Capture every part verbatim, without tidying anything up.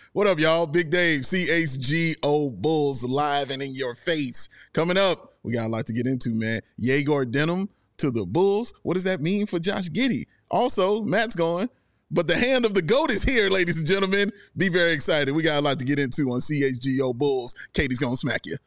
What up, y'all? Big Dave, C H G O Bulls live and in your face. Coming up, we got a lot to get into, man. Yegor Denham to the Bulls. What does that mean for Josh Giddey? Also, Matt's going, but the hand of the GOAT is here, ladies and gentlemen. Be very excited. We got a lot to get into on C H G O Bulls. Katie's going to smack you.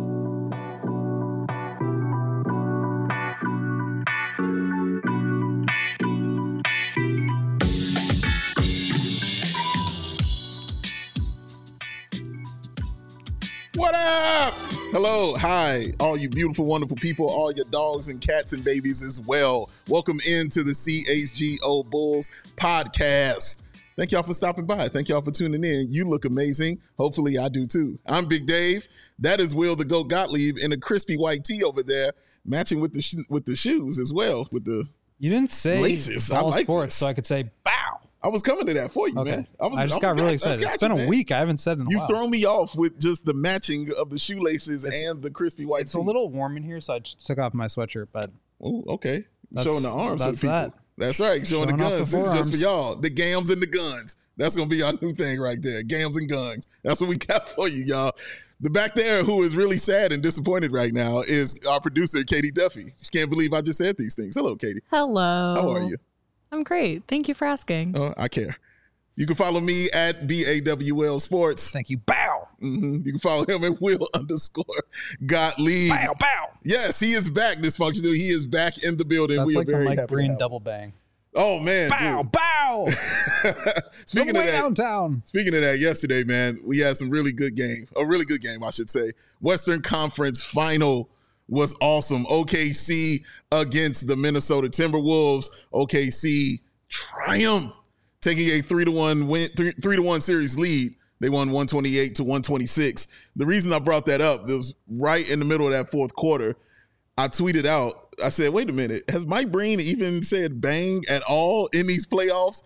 What up? Hello, hi, all you beautiful, wonderful people, all your dogs and cats and babies as well. Welcome into the C H G O Bulls podcast. Thank y'all for stopping by. Thank y'all for tuning in. You look amazing. Hopefully I do too. I'm Big Dave. That is Will the GOAT Gottlieb in a crispy white tee over there, matching with the sh- with the shoes as well, with the You didn't say laces. Ball I like sports, this. so I could say bow. I was coming to that for you, Okay. man. I, was, I just I got was, really I excited. got It's you, been man. a week. I haven't said it in a You while. throw me off with just the matching of the shoelaces It's- and the crispy white It's tee. a little warm in here, so I just took off my sweatshirt. But Oh, okay. That's- Showing the arms that's for the people. that. That's right. Showing, Showing the off the guns. This is just for forearms. y'all. The gams and the guns. That's going to be our new thing right there. Gams and guns. That's what we got for you, y'all. The back there who is really sad and disappointed right now is our producer, Katie Duffy. She can't believe I just said these things. Hello, Katie. Hello. How are you? I'm great. Thank you for asking. Oh, I care. You can follow me at B A W L Sports. thank you. Bow. Mm-hmm. You can follow him at Will underscore Gottlieb. Bow. Bow. Yes, he is back, dysfunctional. He is back in the building. That's we like are very the Mike happy to Breen have him. double bang. Oh, man. Bow. dude. Bow. Speaking From of way that, downtown. Speaking of that, yesterday, man, we had some really good game. A really good game, I should say. Western Conference Final was awesome. O K C against the Minnesota Timberwolves. O K C triumphed, taking a three to one win, three, three to one series lead. They won one twenty-eight to one twenty-six. The reason I brought that up, it was right in the middle of that fourth quarter. I tweeted out, I said, wait a minute, has Mike Breen even said bang at all in these playoffs?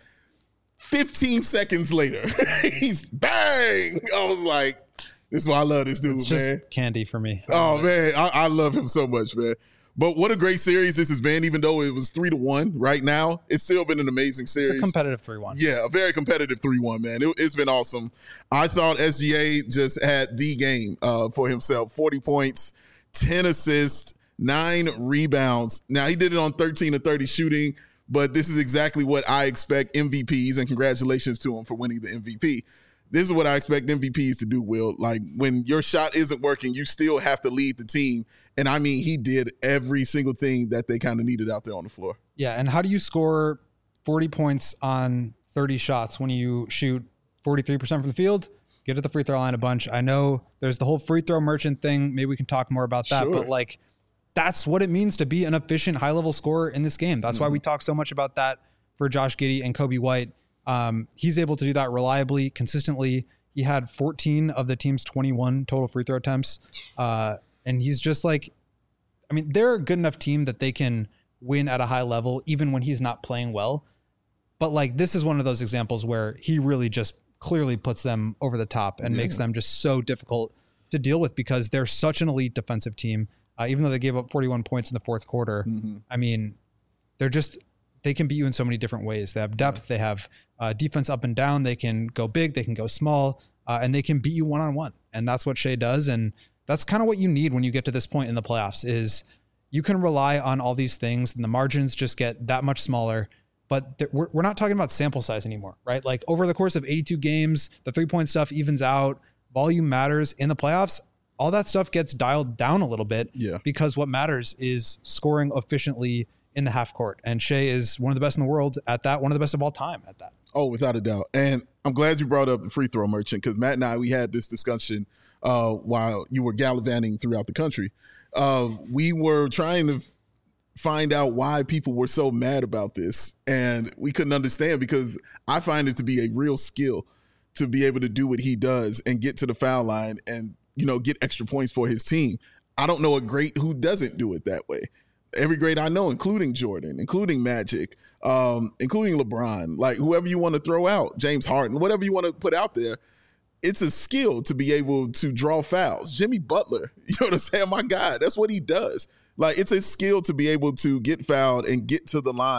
fifteen seconds later, he's bang. I was like, this is why I love this dude, It's just man. candy for me. I Oh, love it. man, I, I love him so much, man. But what a great series this has been, even though it was three to one right now. It's still been an amazing series. It's a competitive three one. Yeah, a very competitive three one, man. It, it's been awesome. I thought S G A just had the game uh, for himself. forty points, ten assists, nine rebounds. Now, he did it on thirteen to thirty shooting, but this is exactly what I expect M V Ps, and congratulations to him for winning the M V P. This is what I expect M V Ps to do, Will. Like, when your shot isn't working, you still have to lead the team. And, I mean, he did every single thing that they kind of needed out there on the floor. Yeah, and how do you score forty points on thirty shots when you shoot forty-three percent from the field? Get to the free throw line a bunch. I know there's the whole free throw merchant thing. Maybe we can talk more about that. Sure. But, like, that's what it means to be an efficient, high-level scorer in this game. That's mm-hmm. why we talk so much about that for Josh Giddey and Kobe White. Um, he's able to do that reliably, consistently. He had fourteen of the team's twenty-one total free throw attempts. Uh, and he's just like, I mean, they're a good enough team that they can win at a high level, even when he's not playing well. But like, this is one of those examples where he really just clearly puts them over the top and yeah. makes them just so difficult to deal with because they're such an elite defensive team. Uh, even though they gave up forty-one points in the fourth quarter, mm-hmm. I mean, they're just, they can beat you in so many different ways. They have depth, yeah. they have uh, defense up and down. They can go big, they can go small, uh, and they can beat you one-on-one. And that's what Shea does. And that's kind of what you need when you get to this point in the playoffs is you can rely on all these things and the margins just get that much smaller, but th- we're, we're not talking about sample size anymore, right? Like over the course of eighty-two games, the three-point stuff evens out, volume matters in the playoffs. All that stuff gets dialed down a little bit yeah. because what matters is scoring efficiently in the half court. And Shea is one of the best in the world at that, one of the best of all time at that. Oh, without a doubt. And I'm glad you brought up the free throw merchant because Matt and I, we had this discussion uh, while you were gallivanting throughout the country. Uh, we were trying to f- find out why people were so mad about this. And we couldn't understand because I find it to be a real skill to be able to do what he does and get to the foul line and, you know, get extra points for his team. I don't know a great who doesn't do it that way. Every great I know, including Jordan, including Magic, um, including LeBron, like whoever you want to throw out, James Harden, whatever you want to put out there, it's a skill to be able to draw fouls. Jimmy Butler, you know what I'm saying? My God, that's what he does. Like, it's a skill to be able to get fouled and get to the line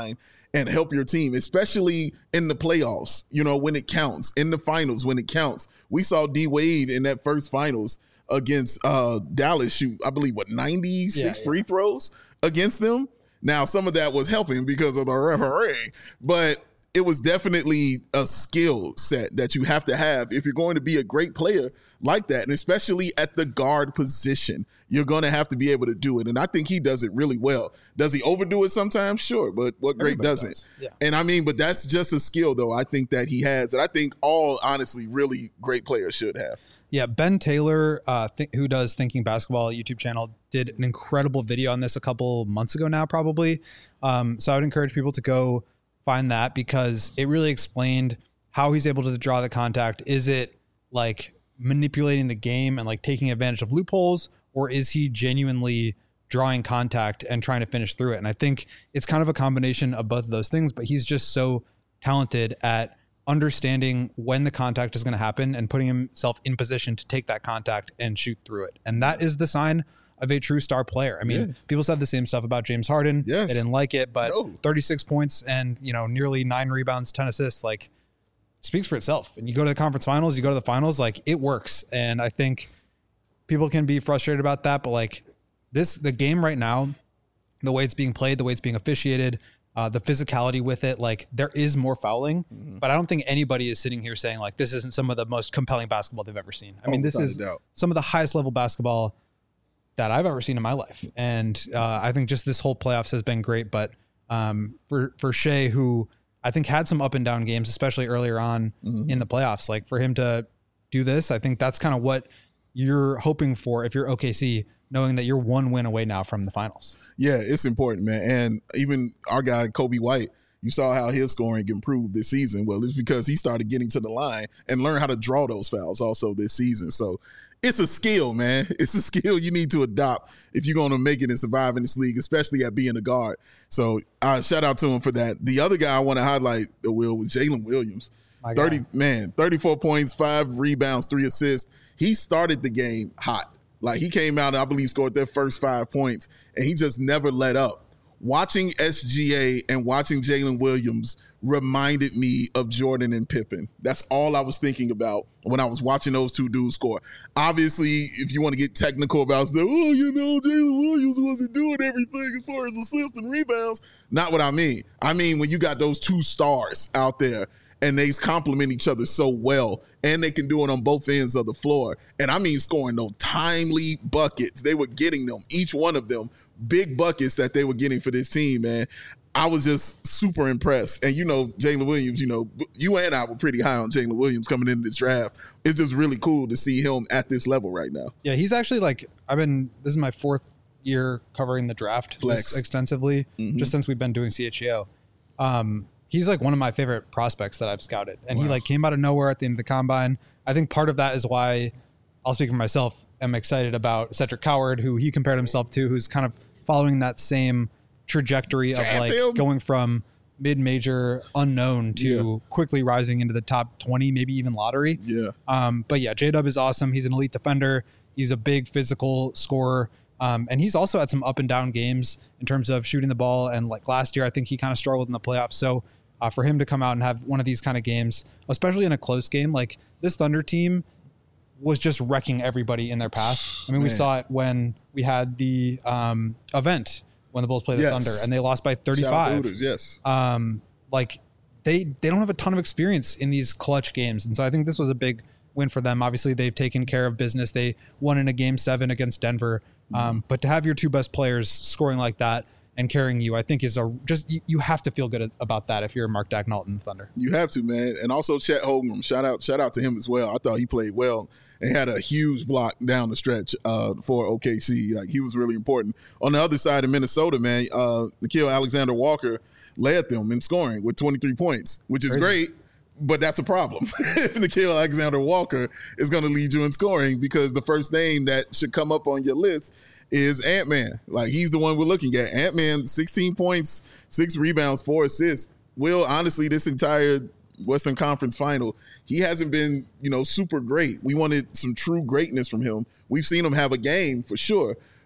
and help your team, especially in the playoffs, you know, when it counts, in the finals, when it counts. We saw D Wade in that first finals against uh, Dallas shoot, I believe, what, ninety-six yeah, yeah. free throws against them. Now, some of that was helping because of the referee, but it was definitely a skill set that you have to have if you're going to be a great player like that. And especially at the guard position, you're going to have to be able to do it. And I think he does it really well. Does he overdo it sometimes? Sure. But what great Everybody doesn't? Does. Yeah. And I mean, but that's just a skill, though, I think that he has that I think all, honestly, really great players should have. Yeah, Ben Taylor, uh, th- who does Thinking Basketball YouTube channel, did an incredible video on this a couple months ago now, probably. Um, so I would encourage people to go find that because it really explained how he's able to draw the contact. Is it like manipulating the game and like taking advantage of loopholes, or is he genuinely drawing contact and trying to finish through it? And I think it's kind of a combination of both of those things, but he's just so talented at understanding when the contact is going to happen and putting himself in position to take that contact and shoot through it. And that is the sign of a true star player. I mean, yeah. people said the same stuff about James Harden. Yes. They didn't like it, but no. thirty-six points and, you know, nearly nine rebounds, ten assists, like speaks for itself. And you go to the conference finals, you go to the finals, like it works. And I think people can be frustrated about that, but like this, the game right now, the way it's being played, the way it's being officiated, Uh, the physicality with it, like there is more fouling, mm-hmm. but I don't think anybody is sitting here saying like this isn't some of the most compelling basketball they've ever seen. I oh, mean, this is some of the highest level basketball that I've ever seen in my life. And uh, I think just this whole playoffs has been great. But um, for, for Shai, who I think had some up and down games, especially earlier on mm-hmm. in the playoffs, like for him to do this, I think that's kind of what you're hoping for if you're O K C, knowing that you're one win away now from the finals. Yeah, it's important, man. And even our guy, Coby White, you saw how his scoring improved this season. Well, it's because he started getting to the line and learned how to draw those fouls also this season. So it's a skill, man. It's a skill you need to adopt if you're going to make it and survive in this league, especially at being a guard. So uh, shout out to him for that. The other guy I want to highlight, the Will, was Jalen Williams. My thirty God. Man, thirty-four points, five rebounds, three assists. He started the game hot. Like, he came out and I believe scored their first five points, and he just never let up. Watching S G A and watching Jalen Williams reminded me of Jordan and Pippen. That's all I was thinking about when I was watching those two dudes score. Obviously, if you want to get technical about stuff, oh, you know, Jalen Williams wasn't doing everything as far as assists and rebounds. Not what I mean. I mean, when you got those two stars out there, and they complement each other so well, and they can do it on both ends of the floor. And I mean scoring those timely buckets. They were getting them, each one of them, big buckets that they were getting for this team, man. I was just super impressed. And, you know, Jalen Williams, you know, you and I were pretty high on Jalen Williams coming into this draft. It's just really cool to see him at this level right now. Yeah, he's actually like, I've been, this is my fourth year covering the draft Flex. extensively, mm-hmm. just since we've been doing C H E O. Um, He's like one of my favorite prospects that I've scouted. And wow. he like came out of nowhere at the end of the combine. I think part of that is why, I'll speak for myself, I'm excited about Cedric Coward, who he compared himself to, who's kind of following that same trajectory of like him. going from mid-major unknown to yeah. quickly rising into the top twenty, maybe even lottery. Yeah. Um, but yeah, J-Dub is awesome. He's an elite defender. He's a big physical scorer. Um, and he's also had some up and down games in terms of shooting the ball. And like last year, I think he kind of struggled in the playoffs. So Uh, for him to come out and have one of these kind of games, especially in a close game, like this Thunder team was just wrecking everybody in their path. I mean, Man. we saw it when we had the um, event when the Bulls played the yes. Thunder and they lost by thirty-five. Hooters, yes. Um, like they, they don't have a ton of experience in these clutch games. And so I think this was a big win for them. Obviously they've taken care of business. They won in a game seven against Denver. Um, mm-hmm. But to have your two best players scoring like that and carrying you, I think is a just, you, you have to feel good about that if you're Mark Daigneault in the Thunder. You have to, man. And also Chet Holmgren, shout out, shout out to him as well. I thought he played well and had a huge block down the stretch uh, for O K C. Like, he was really important. On the other side of Minnesota, man, uh, Nickeil Alexander-Walker led them in scoring with twenty-three points, which is Crazy. great. But that's a problem. If Nickeil Alexander-Walker is going to lead you in scoring, because the first name that should come up on your list is Ant-Man. Like, he's the one we're looking at. Ant-Man, sixteen points, six rebounds, four assists. Will, honestly, this entire Western Conference final, he hasn't been, you know, super great. We wanted some true greatness from him. We've seen him have a game for sure,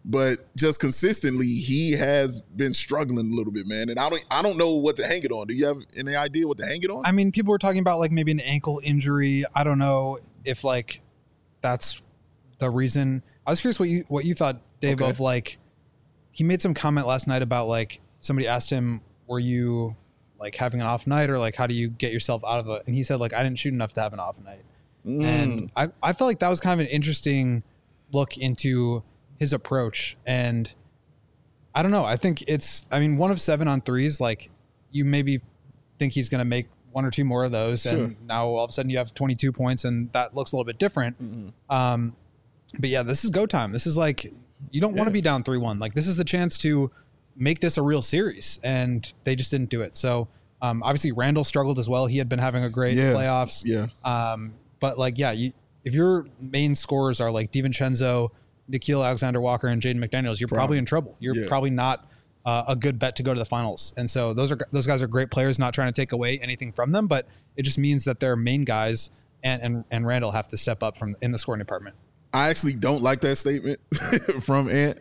but just consistently, he has been struggling a little bit, man. And I don't, I don't know what to hang it on. Do you have any idea what to hang it on? I mean, people were talking about like maybe an ankle injury. I don't know if like that's the reason. I was curious what you what you thought, Dave, okay. of like he made some comment last night about like somebody asked him, "Were you like having an off night, or like how do you get yourself out of it?" And he said like, "I didn't shoot enough to have an off night." Mm. And I I felt like that was kind of an interesting look into his approach. And I don't know. I think it's, I mean, one of seven on threes, like you maybe think he's going to make one or two more of those. Sure. And now all of a sudden you have twenty-two points and that looks a little bit different. Mm-hmm. Um, but yeah, this is go time. This is like, you don't yeah. want to be down three one. Like this is the chance to make this a real series, and they just didn't do it. So um, obviously Randall struggled as well. He had been having a great yeah. playoffs. Yeah. Um, but like, yeah, you, if your main scorers are like DiVincenzo, Nickeil Alexander-Walker, and Jaden McDaniels, you're probably, probably in trouble. You're yeah. probably not uh, a good bet to go to the finals. And so those are those guys are great players, not trying to take away anything from them, but it just means that their main guys and and, and Randall have to step up from in the scoring department. I actually don't like that statement from Ant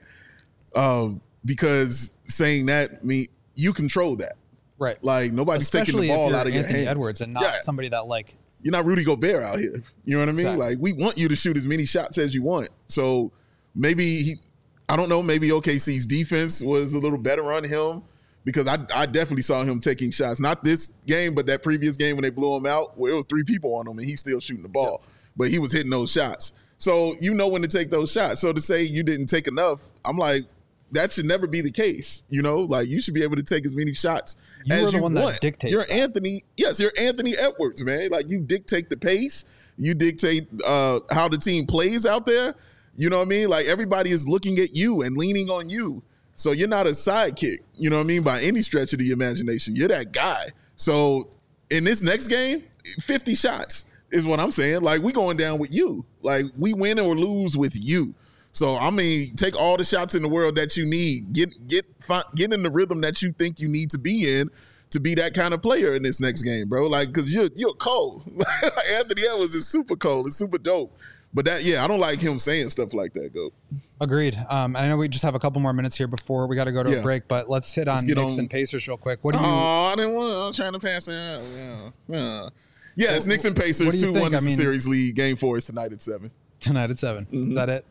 um, because saying that mean you control that. Right. Like nobody's taking the ball out of your Anthony hands. Edwards and not yeah. somebody that like, you're not Rudy Gobert out here. You know what I mean? Exactly. Like we want you to shoot as many shots as you want. So maybe he, I don't know, maybe O K C's defense was a little better on him because I, I definitely saw him taking shots. Not this game, but that previous game when they blew him out where it was three people on him and he's still shooting the ball. Yep. But he was hitting those shots. So you know when to take those shots. So to say you didn't take enough, I'm like, that should never be the case. You know, like you should be able to take as many shots you as were the you one want. That dictates you're that. Anthony. Yes, you're Anthony Edwards, man. Like you dictate the pace. You dictate uh, how the team plays out there. You know what I mean? Like everybody is looking at you and leaning on you. So you're not a sidekick. You know what I mean? By any stretch of the imagination, you're that guy. So in this next game, fifty shots is what I'm saying. Like we going down with you. Like we win or lose with you. So, I mean, take all the shots in the world that you need. Get get get in the rhythm that you think you need to be in to be that kind of player in this next game, bro. Like, because you're, you're cold. Anthony Edwards is super cold. It's super dope. But that, yeah, I don't like him saying stuff like that, Go. Agreed. Um, I know we just have a couple more minutes here before we got to go to yeah. a break, but let's hit on let's Knicks on. and Pacers real quick. What do you? Oh, I didn't want. I'm trying to pass it out. Yeah, yeah. yeah it's Knicks and Pacers. two one is the series lead. Game four is tonight at seven. Tonight at seven. Mm-hmm. Is that it?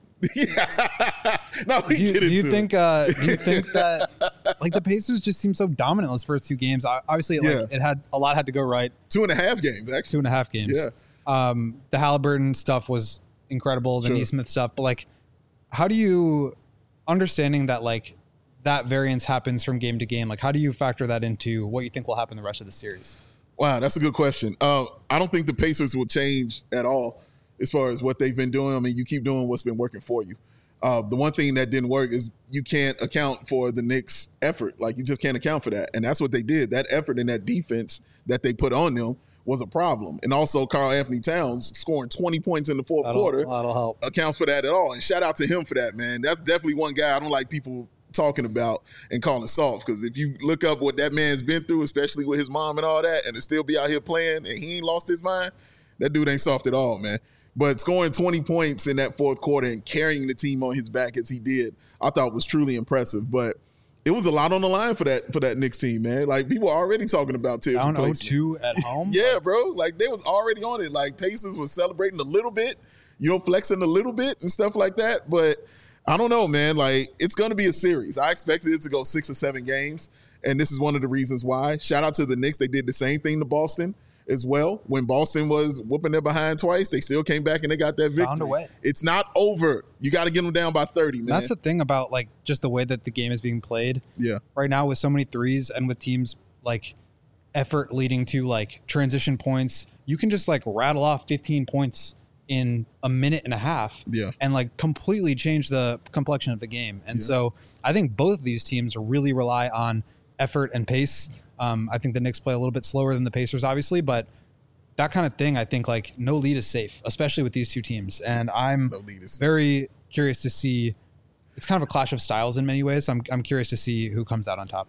Yeah. No, we do you, get into do you it. think? Uh, do you think that like the Pacers just seem so dominant those first two games? Obviously, like yeah. it had a lot had to go right. Two and a half games, actually. Two and a half games. Yeah. Um, the Halliburton stuff was incredible. The sure. Nesmith stuff, but like, how do you understanding that like that variance happens from game to game? Like, how do you factor that into what you think will happen the rest of the series? Wow, that's a good question. Uh, I don't think the Pacers will change at all as far as what they've been doing. I mean, you keep doing what's been working for you. Uh, the one thing that didn't work is you can't account for the Knicks' effort. Like, you just can't account for that. And that's what they did. That effort and that defense that they put on them was a problem. And also, Karl Anthony Towns scoring twenty points in the fourth that'll, quarter that'll help. accounts for that at all. And shout out to him for that, man. That's definitely one guy I don't like people talking about and calling soft, because if you look up what that man's been through, especially with his mom and all that, and to still be out here playing and he ain't lost his mind, that dude ain't soft at all, man. But scoring twenty points in that fourth quarter and carrying the team on his back as he did, I thought was truly impressive. But it was a lot on the line for that for that Knicks team, man. Like, people are already talking about Tibbs down replacement. oh two at home? Yeah, bro. Like, they was already on it. Like, Pacers was celebrating a little bit, you know, flexing a little bit and stuff like that. But I don't know, man. Like, it's going to be a series. I expected it to go six or seven games, and this is one of the reasons why. Shout out to the Knicks. They did the same thing to Boston as well. When Boston was whooping their behind twice, they still came back and they got that victory. Found a way. It's not over. You got to get them down by thirty, man. That's the thing about, like, just the way that the game is being played. Yeah. Right now with so many threes and with teams, like, effort leading to, like, transition points, you can just, like, rattle off fifteen points in a minute and a half yeah. and, like, completely change the complexion of the game. And yeah. so I think both of these teams really rely on effort and pace. Um, I think the Knicks play a little bit slower than the Pacers, obviously, but that kind of thing, I think, like, no lead is safe, especially with these two teams. And I'm no very curious to see. It's kind of a clash of styles in many ways. So I'm I'm curious to see who comes out on top.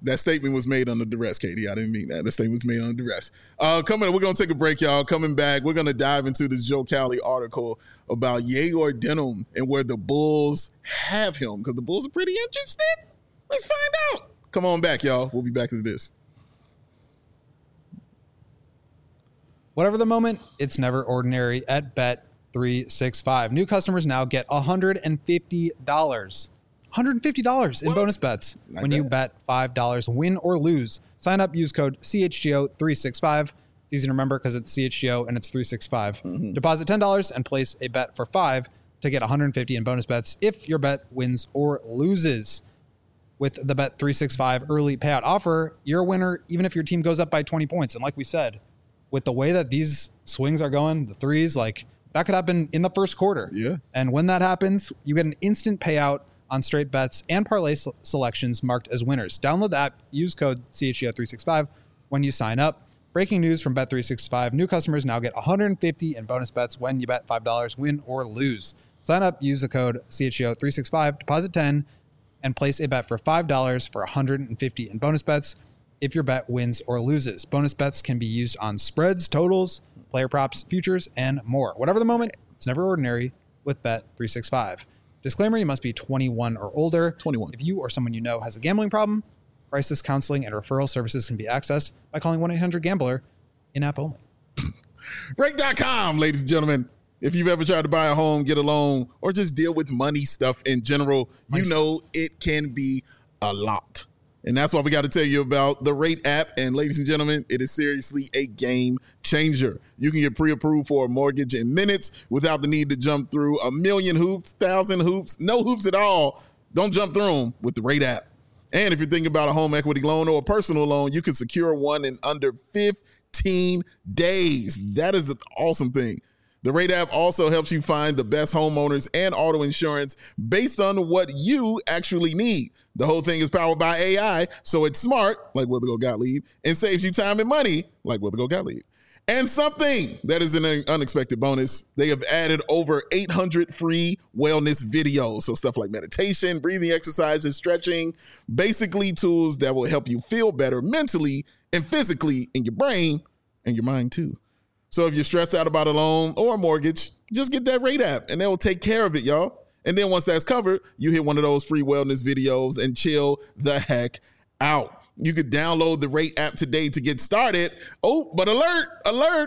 That statement was made under duress, Katie. I didn't mean that. The statement was made under duress. Uh, coming, we're going to take a break, y'all. Coming back, we're going to dive into this Joe Cowley article about Yegor Denham and where the Bulls have him, because the Bulls are pretty interested. Let's find out. Come on back, y'all. We'll be back to this. Whatever the moment, it's never ordinary at Bet three sixty-five. New customers now get one hundred fifty dollars. one hundred fifty dollars in what? bonus bets Not when bad. you bet five dollars, win or lose. Sign up, use code C H G O three sixty-five. It's easy to remember because it's C H G O and it's three sixty-five. Mm-hmm. Deposit ten dollars and place a bet for five to get one hundred fifty in bonus bets if your bet wins or loses. With the Bet three sixty-five early payout offer, you're a winner even if your team goes up by twenty points. And like we said, with the way that these swings are going, the threes, like that could happen in the first quarter. Yeah. And when that happens, you get an instant payout on straight bets and parlay selections marked as winners. Download the app, use code C H G O three sixty-five when you sign up. Breaking news from Bet three sixty-five. New customers now get one hundred fifty in bonus bets when you bet five dollars, win or lose. Sign up, use the code C H G O three sixty-five, deposit ten, and place a bet for five dollars for one hundred fifty in bonus bets if your bet wins or loses. Bonus bets can be used on spreads, totals, player props, futures, and more. Whatever the moment, it's never ordinary with Bet three sixty-five. Disclaimer, you must be twenty-one or older. twenty-one. If you or someone you know has a gambling problem, crisis counseling and referral services can be accessed by calling one eight hundred gambler, in-app only. Rate dot com, ladies and gentlemen. If you've ever tried to buy a home, get a loan, or just deal with money stuff in general, you know it can be a lot. And that's why we got to tell you about the Rate app. And ladies and gentlemen, it is seriously a game changer. You can get pre-approved for a mortgage in minutes without the need to jump through a million hoops, thousand hoops, no hoops at all. Don't jump through them with the Rate app. And if you're thinking about a home equity loan or a personal loan, you can secure one in under fifteen days. That is the awesome thing. The Rate app also helps you find the best homeowners and auto insurance based on what you actually need. The whole thing is powered by A I, so it's smart, like Withego Gottlieb, and saves you time and money, like Withego Gottlieb. And something that is an unexpected bonus, they have added over eight hundred free wellness videos. So stuff like meditation, breathing exercises, stretching, basically tools that will help you feel better mentally and physically in your brain and your mind too. So if you're stressed out about a loan or a mortgage, just get that Rate app and they will take care of it, y'all. And then once that's covered, you hit one of those free wellness videos and chill the heck out. You could download the Rate app today to get started. Oh, but alert, alert.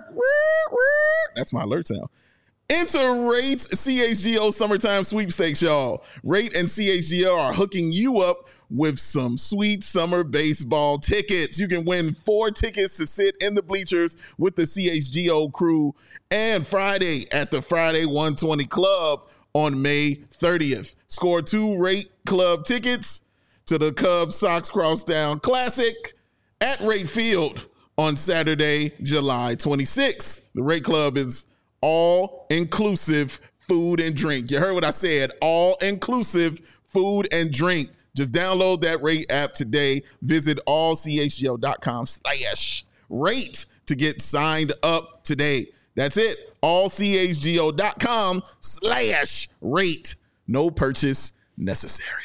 That's my alert sound. Enter Rate's C H G O Summertime Sweepstakes, y'all. Rate and C H G O are hooking you up with some sweet summer baseball tickets. You can win four tickets to sit in the bleachers with the C H G O crew and Friday at the Friday one twenty Club on May thirtieth. Score two Rate Club tickets to the Cubs Sox Crosstown Classic at Rate Field on Saturday, July twenty-sixth. The Rate Club is all-inclusive food and drink. You heard what I said, all-inclusive food and drink. Just download that Rate app today. Visit allchgo.com slash rate to get signed up today. That's it. allchgo.com slash rate. No purchase necessary.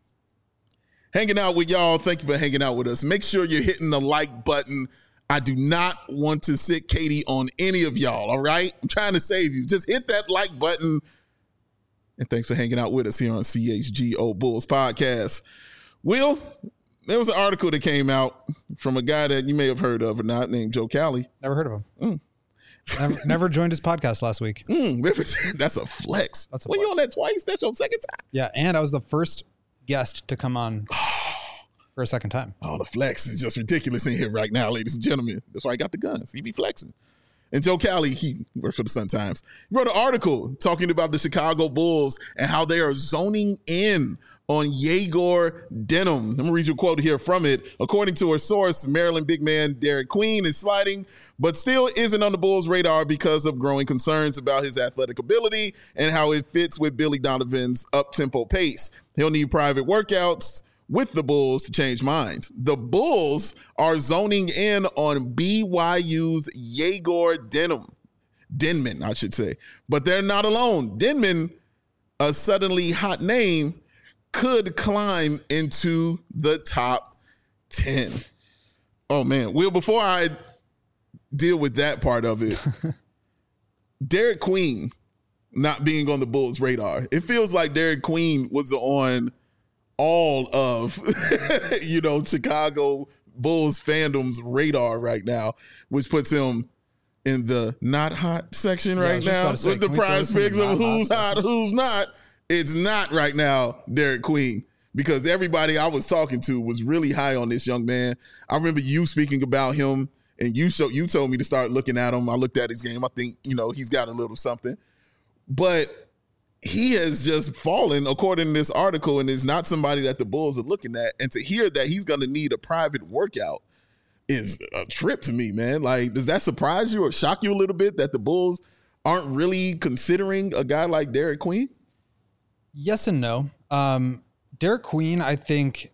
Hanging out with y'all. Thank you for hanging out with us. Make sure you're hitting the like button. I do not want to sit Katie on any of y'all, all right? I'm trying to save you. Just hit that like button. And thanks for hanging out with us here on C H G O Bulls Podcast. Will, there was an article that came out from a guy that you may have heard of or not named Joe Cowley. Never heard of him. Mm. Never, never joined his podcast last week. Mm, that's a flex. That's a well, flex. You on that twice? That's your second time. Yeah, and I was the first guest to come on for a second time. Oh, the flex is just ridiculous in here right now, ladies and gentlemen. That's why I got the guns. He be flexing. And Joe Cowley, he works for the Sun-Times. He wrote an article talking about the Chicago Bulls and how they are zoning in on Yegor Denham. I'm going to read you a quote here from it. According to a source, Maryland big man Derek Queen is sliding, but still isn't on the Bulls' radar because of growing concerns about his athletic ability and how it fits with Billy Donovan's up-tempo pace. He'll need private workouts with the Bulls to change minds. The Bulls are zoning in on B Y U's Yegor Denham. Denman, I should say. But they're not alone. Denman, a suddenly hot name, could climb into the top ten. Oh, man. Well, before I deal with that part of it, Derek Queen not being on the Bulls' radar. It feels like Derek Queen was on all of, you know, Chicago Bulls fandom's radar right now, which puts him in the not hot section yeah, right now say, with the prize picks of who's hot, hot who's not. It's not right now Derek Queen, because everybody I was talking to was really high on this young man. I remember you speaking about him, and you show, you told me to start looking at him. I looked at his game. I think, you know, he's got a little something. But he has just fallen, according to this article, and is not somebody that the Bulls are looking at. And to hear that he's going to need a private workout is a trip to me, man. Like, does that surprise you or shock you a little bit that the Bulls aren't really considering a guy like Derek Queen? Yes and no. Um, Derek Queen, I think,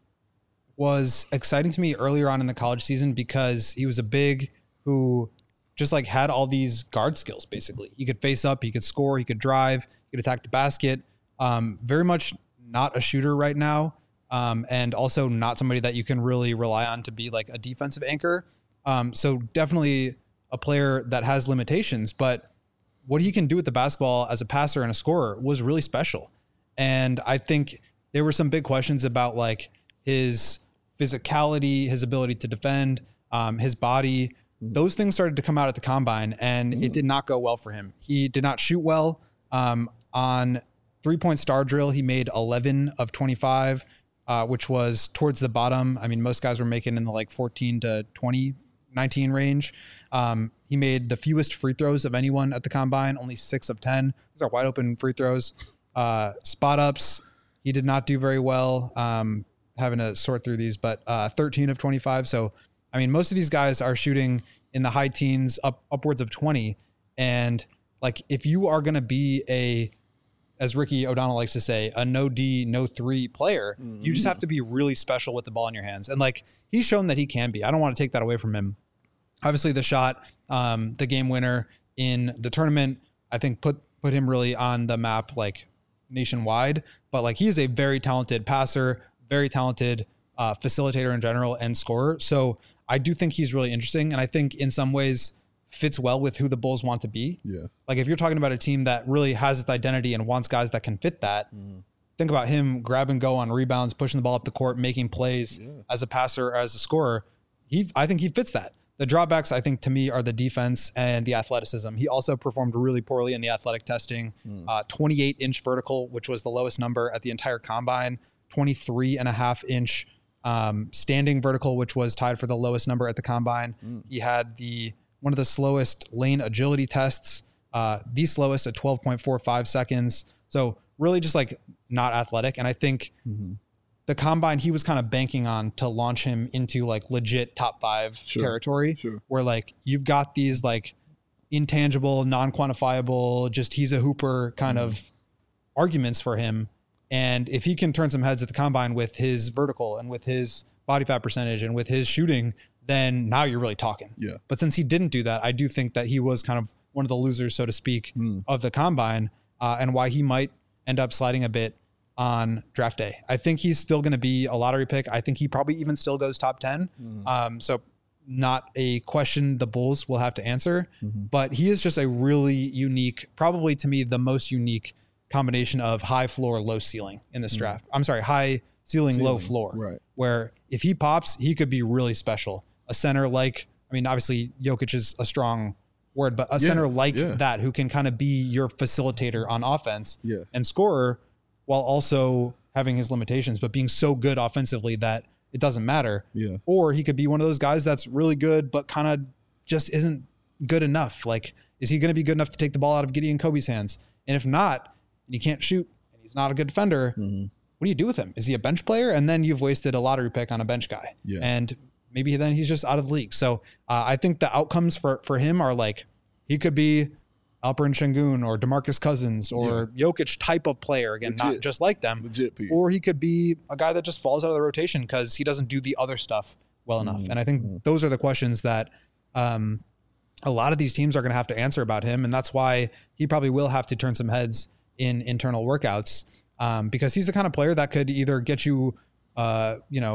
was exciting to me earlier on in the college season because he was a big who just like had all these guard skills. Basically, he could face up, he could score, he could drive, he could attack the basket. Um, very much not a shooter right now. Um, and also not somebody that you can really rely on to be like a defensive anchor. Um, so definitely a player that has limitations, but what he can do with the basketball as a passer and a scorer was really special. And I think there were some big questions about like his physicality, his ability to defend, um, his body. Those things started to come out at the combine, and mm. it did not go well for him. He did not shoot well. Um, on three-point star drill, he made eleven of twenty-five. Uh, which was towards the bottom. I mean, most guys were making in the like fourteen to twenty, nineteen range. Um, he made the fewest free throws of anyone at the combine, only six of ten. Those are wide open free throws. Uh, spot ups, he did not do very well. Um, having to sort through these, but uh, thirteen of twenty-five. So, I mean, most of these guys are shooting in the high teens, up upwards of twenty. And like, if you are going to be a, as Ricky O'Donnell likes to say, a no D, no three player, mm-hmm. you just have to be really special with the ball in your hands. And like, he's shown that he can be. I don't want to take that away from him. Obviously the shot, um, the game winner in the tournament, I think put, put him really on the map, like nationwide, but like, he is a very talented passer, very talented uh, facilitator in general and scorer. So I do think he's really interesting. And I think in some ways fits well with who the Bulls want to be. Yeah. Like if you're talking about a team that really has its identity and wants guys that can fit that, mm. think about him grab and go on rebounds, pushing the ball up the court, making plays yeah. as a passer or as a scorer. He, I think he fits that. The drawbacks, I think, to me are the defense and the athleticism. He also performed really poorly in the athletic testing. Mm. Uh, twenty-eight inch vertical, which was the lowest number at the entire combine. twenty-three and a half inch um, standing vertical, which was tied for the lowest number at the combine. Mm. He had the one of the slowest lane agility tests, uh, the slowest at twelve point four five seconds. So really just like not athletic. And I think mm-hmm. the combine, he was kind of banking on to launch him into like legit top five sure. territory sure. where like you've got these like intangible, non-quantifiable, just he's a hooper kind mm-hmm. of arguments for him. And if he can turn some heads at the combine with his vertical and with his body fat percentage and with his shooting, then now you're really talking. Yeah. But since he didn't do that, I do think that he was kind of one of the losers, so to speak, mm. of the combine, uh, and why he might end up sliding a bit on draft day. I think he's still going to be a lottery pick. I think he probably even still goes top ten. Mm. Um, so not a question the Bulls will have to answer, mm-hmm. but he is just a really unique, probably to me, the most unique combination of high floor, low ceiling in this mm. draft. I'm sorry, high ceiling, ceiling, low floor, right? Where if he pops, he could be really special. A center like, I mean, obviously Jokic is a strong word, but a yeah, center like yeah. that who can kind of be your facilitator on offense yeah. and scorer while also having his limitations, but being so good offensively that it doesn't matter. Yeah. Or he could be one of those guys that's really good, but kind of just isn't good enough. Like, is he going to be good enough to take the ball out of Gideon Kobe's hands? And if not, and he can't shoot and he's not a good defender, mm-hmm. what do you do with him? Is he a bench player? And then you've wasted a lottery pick on a bench guy. Yeah. And maybe then he's just out of the league. So uh, I think the outcomes for, for him are like, he could be Alperen Şengün or DeMarcus Cousins or yeah. Jokic type of player. Again, Legit. Not just like them. Legit, Pete. Or he could be a guy that just falls out of the rotation because he doesn't do the other stuff well enough. Mm-hmm. And I think mm-hmm. those are the questions that um, a lot of these teams are going to have to answer about him. And that's why he probably will have to turn some heads in internal workouts um, because he's the kind of player that could either get you, uh, you know,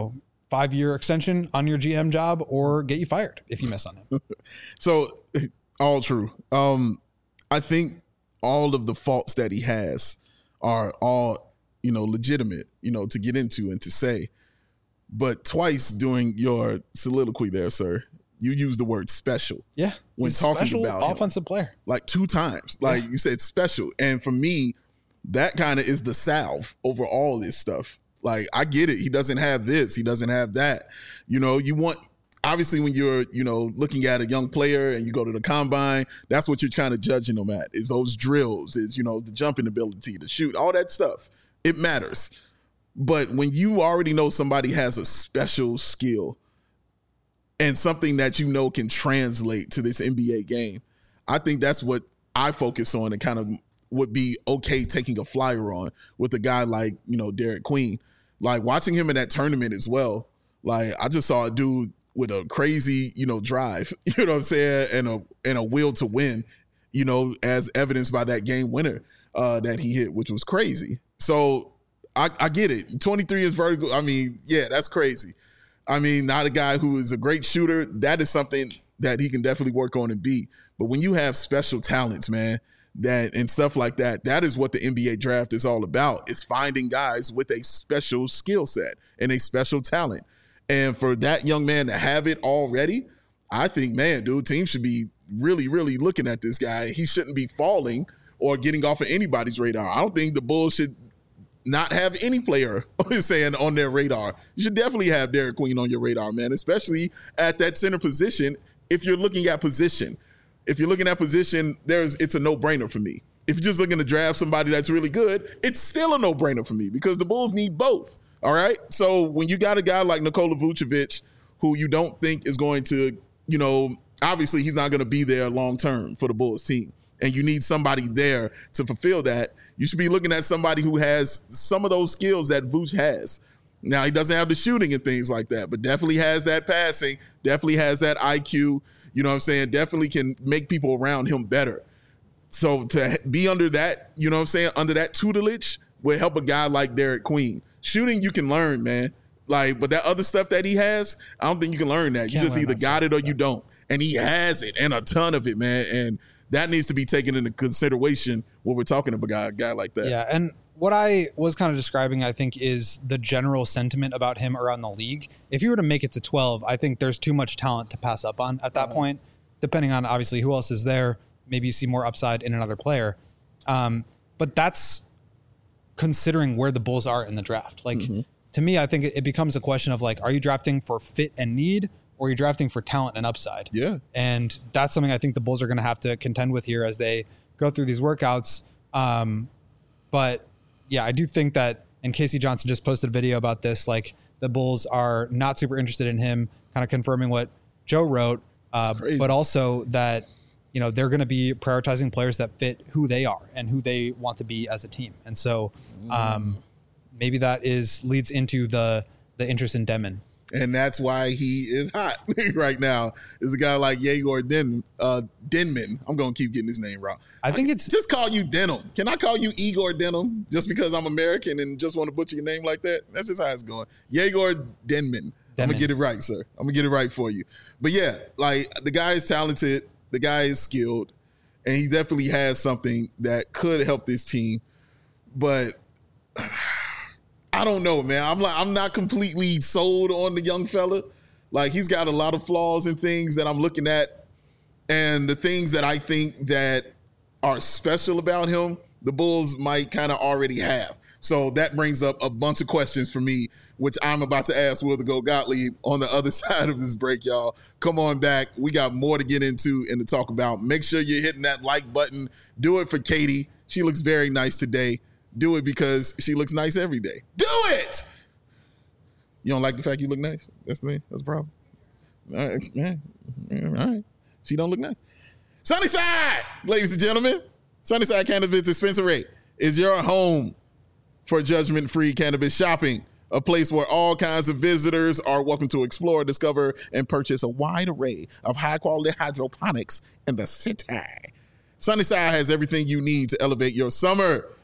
five-year extension on your G M job or get you fired if you miss on him. So all true. Um, I think all of the faults that he has are all, you know, legitimate, you know, to get into and to say. But twice during your soliloquy there, sir, you used the word special. Yeah. When talking special about offensive him. player. Like two times. Like yeah. you said special. And for me, that kind of is the salve over all this stuff. Like, I get it. He doesn't have this. He doesn't have that. You know, you want, obviously when you're, you know, looking at a young player and you go to the combine, that's what you're kind of judging them at, is those drills, is, you know, the jumping ability, the shoot, all that stuff. It matters. But when you already know somebody has a special skill and something that you know can translate to this N B A game, I think that's what I focus on and kind of would be okay taking a flyer on with a guy like, you know, Derek Queen. Like, watching him in that tournament as well, like, I just saw a dude with a crazy, you know, drive, you know what I'm saying, and a and a will to win, you know, as evidenced by that game winner uh, that he hit, which was crazy. So I, I get it. twenty-three is vertical. I mean, yeah, that's crazy. I mean, not a guy who is a great shooter. That is something that he can definitely work on and be. But when you have special talents, man, that and stuff like that, that is what the N B A draft is all about, is finding guys with a special skill set and a special talent. And for that young man to have it already, I think, man, dude, teams should be really, really looking at this guy. He shouldn't be falling or getting off of anybody's radar. I don't think the Bulls should not have any player saying on their radar. You should definitely have Derek Queen on your radar, man, especially at that center position. If you're looking at position, if you're looking at position, there's it's a no-brainer for me. If you're just looking to draft somebody that's really good, it's still a no-brainer for me because the Bulls need both. All right. So when you got a guy like Nikola Vucevic, who you don't think is going to, you know, obviously he's not going to be there long term for the Bulls team, and you need somebody there to fulfill that, you should be looking at somebody who has some of those skills that Vooch has. Now, he doesn't have the shooting and things like that, but definitely has that passing, definitely has that I Q, you know what I'm saying, definitely can make people around him better. So to be under that, you know what I'm saying, under that tutelage will help a guy like Derek Queen. Shooting, you can learn, man. Like, but that other stuff that he has, I don't think you can learn that. You just either got it or you don't. And he has it, and a ton of it, man. And that needs to be taken into consideration when we're talking about a guy, a guy like that. Yeah, and what I was kind of describing, I think, is the general sentiment about him around the league. If you were to make it to twelve, I think there's too much talent to pass up on at that uh-huh. point, depending on, obviously, who else is there. Maybe you see more upside in another player. Um, but that's considering where the Bulls are in the draft. Like, mm-hmm. to me, I think it becomes a question of, like, are you drafting for fit and need, or are you drafting for talent and upside? Yeah. And that's something I think the Bulls are going to have to contend with here as they go through these workouts. Um, but yeah, I do think that, and Casey Johnson just posted a video about this, like, the Bulls are not super interested in him, kind of confirming what Joe wrote, uh, but also that, you know, they're going to be prioritizing players that fit who they are and who they want to be as a team. And so um, mm. maybe that is leads into the the interest in Denman. And that's why he is hot right now, is a guy like Yegor Den, uh, Denman. I'm going to keep getting his name wrong. I think I it's... Just call you Denham. Can I call you Igor Denham just because I'm American and just want to butcher your name like that? That's just how it's going. Yegor Denman. I'm going to get it right, sir. I'm going to get it right for you. But yeah, like, the guy is talented. The guy is skilled, and he definitely has something that could help this team. But I don't know, man. I'm like, I'm not completely sold on the young fella. Like, he's got a lot of flaws and things that I'm looking at, and the things that I think that are special about him, the Bulls might kind of already have. So that brings up a bunch of questions for me, which I'm about to ask Will the Go Gottlieb on the other side of this break, y'all. Come on back. We got more to get into and to talk about. Make sure you're hitting that like button. Do it for Katie. She looks very nice today. Do it because she looks nice every day. Do it! You don't like the fact you look nice? That's the thing. That's the problem. All right. Yeah. All right. She don't look nice. Sunnyside, ladies and gentlemen. Sunnyside Cannabis Dispensary is your home for judgment-free cannabis shopping, a place where all kinds of visitors are welcome to explore, discover, and purchase a wide array of high-quality hydroponics in the city. Sunnyside has everything you need to elevate your summer.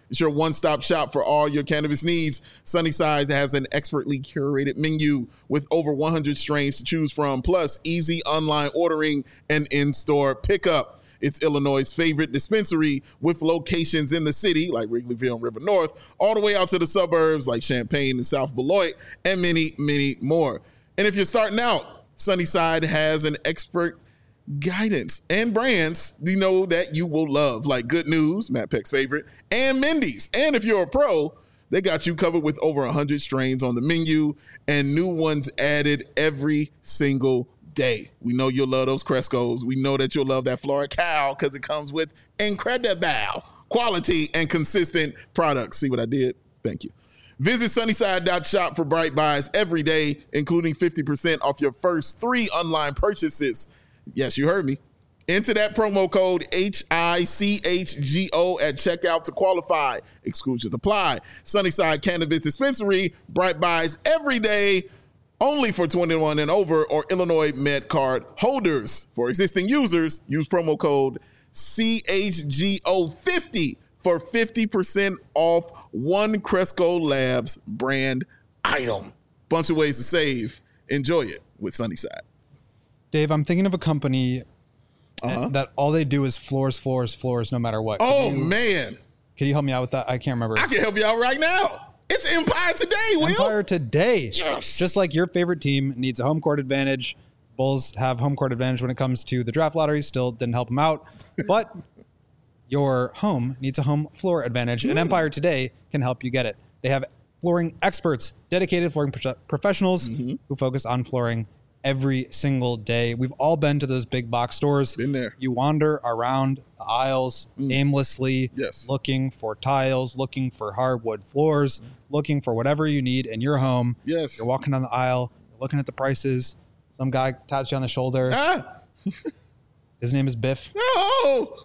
It's your one-stop shop for all your cannabis needs. Sunnyside has an expertly curated menu with over one hundred strains to choose from, plus easy online ordering and in-store pickup. It's Illinois' favorite dispensary with locations in the city like Wrigleyville and River North, all the way out to the suburbs like Champaign and South Beloit, and many, many more. And if you're starting out, Sunnyside has an expert guidance and brands you know that you will love, like Good News, Matt Peck's favorite, and Mindy's. And if you're a pro, they got you covered with over one hundred strains on the menu and new ones added every single day. We know you'll love those Crescos. We know that you'll love that FloraCal because it comes with incredible quality and consistent products. See what I did? Thank you. Visit sunnyside dot shop for bright buys every day, including fifty percent off your first three online purchases. Yes, you heard me. Enter that promo code H I C H G O at checkout to qualify. Exclusions apply. Sunnyside Cannabis Dispensary, bright buys every day, only for twenty-one and over or Illinois Med Card holders. For existing users, use promo code C H G O fifty for fifty percent off one Cresco Labs brand item. Bunch of ways to save. Enjoy it with Sunnyside. Dave, I'm thinking of a company uh-huh. that all they do is floors, floors, floors, no matter what. Oh, can you, man. Can you help me out with that? I can't remember. I can help you out right now. It's Empire Today, Will. Empire Today. Yes. Just like your favorite team needs a home court advantage. Bulls have home court advantage when it comes to the draft lottery. Still didn't help them out. But your home needs a home floor advantage, and Empire Today can help you get it. They have flooring experts, dedicated flooring pro- professionals mm-hmm. who focus on flooring every single day. We've all been to those big box stores. Been there. You wander around the aisles mm. aimlessly, yes. looking for tiles, looking for hardwood floors, mm. looking for whatever you need in your home. Yes. You're walking down the aisle, you're looking at the prices. Some guy taps you on the shoulder. Ah. His name is Biff. No.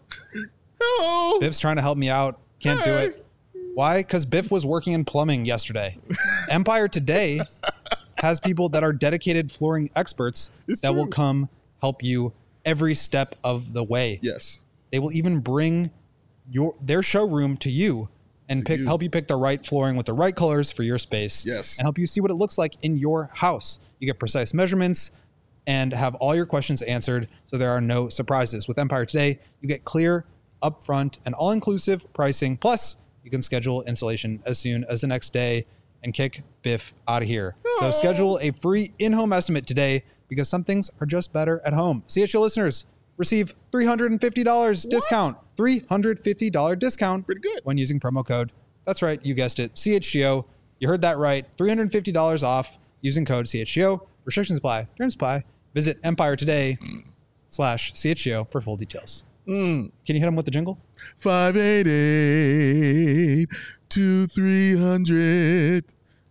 No. Biff's trying to help me out. Can't hey. do it. Why? Because Biff was working in plumbing yesterday. Empire Today has people that are dedicated flooring experts it's that true. will come help you every step of the way. Yes. They will even bring your their showroom to you and to pick you. help you pick the right flooring with the right colors for your space. Yes. And help you see what it looks like in your house. You get precise measurements and have all your questions answered so there are no surprises. With Empire Today, you get clear, upfront, and all-inclusive pricing. Plus, you can schedule installation as soon as the next day and kick Biff out of here. So schedule a free in-home estimate today because some things are just better at home. C H G O listeners receive three hundred fifty dollars what? discount. three hundred fifty dollars discount. Pretty good. When using promo code. That's right. You guessed it. C H G O. You heard that right. three hundred fifty dollars off using code C H G O. Restrictions apply. Terms apply. Visit Empire Today slash C H G O for full details. Mm. Can you hit them with the jingle? five eight eight, two three hundred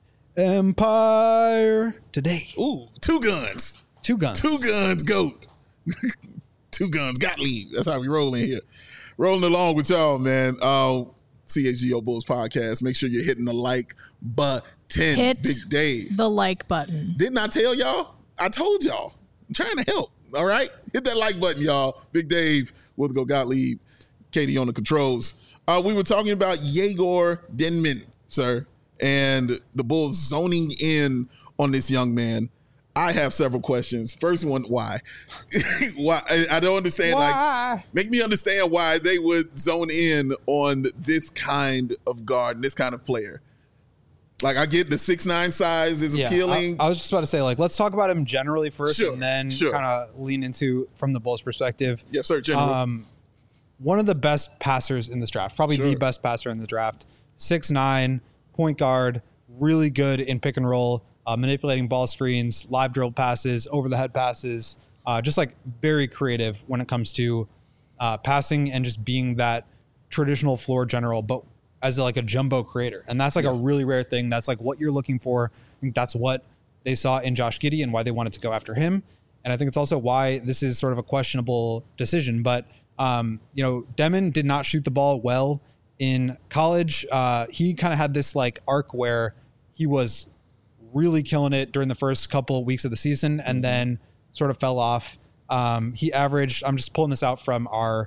Empire Today. Ooh, two guns. Two guns. Two guns, GOAT. Two guns, Gottlieb. That's how we roll in here. Rolling along with y'all, man. Uh, C H G O Bulls podcast. Make sure you're hitting the like button. Hit Big Dave. the like button. Didn't I tell y'all? I told y'all. I'm trying to help. All right? Hit that like button, y'all. Big Dave with Go Gottlieb. Katie on the controls. Uh, we were talking about Yegor Denman, sir, and the Bulls zoning in on this young man. I have several questions. First one, why? Why? I don't understand. Why? Like, make me understand why they would zone in on this kind of guard and this kind of player. Like, I get the six nine size is yeah, appealing. I, I was just about to say, like, let's talk about him generally first, sure, and then sure. kind of lean into from the Bulls' perspective. Yes, sir. General. Um, one of the best passers in this draft, probably sure. the best passer in the draft. six nine, point guard, really good in pick and roll, uh, manipulating ball screens, live drill passes, over the head passes, uh, just like very creative when it comes to uh, passing and just being that traditional floor general, but as a, like a jumbo creator. And that's like yeah. a really rare thing. That's like what you're looking for. I think that's what they saw in Josh Giddey and why they wanted to go after him. And I think it's also why this is sort of a questionable decision. But, um, you know, Denman did not shoot the ball well in college. Uh, he kind of had this like arc where he was really killing it during the first couple of weeks of the season and then sort of fell off. Um, he averaged, I'm just pulling this out from our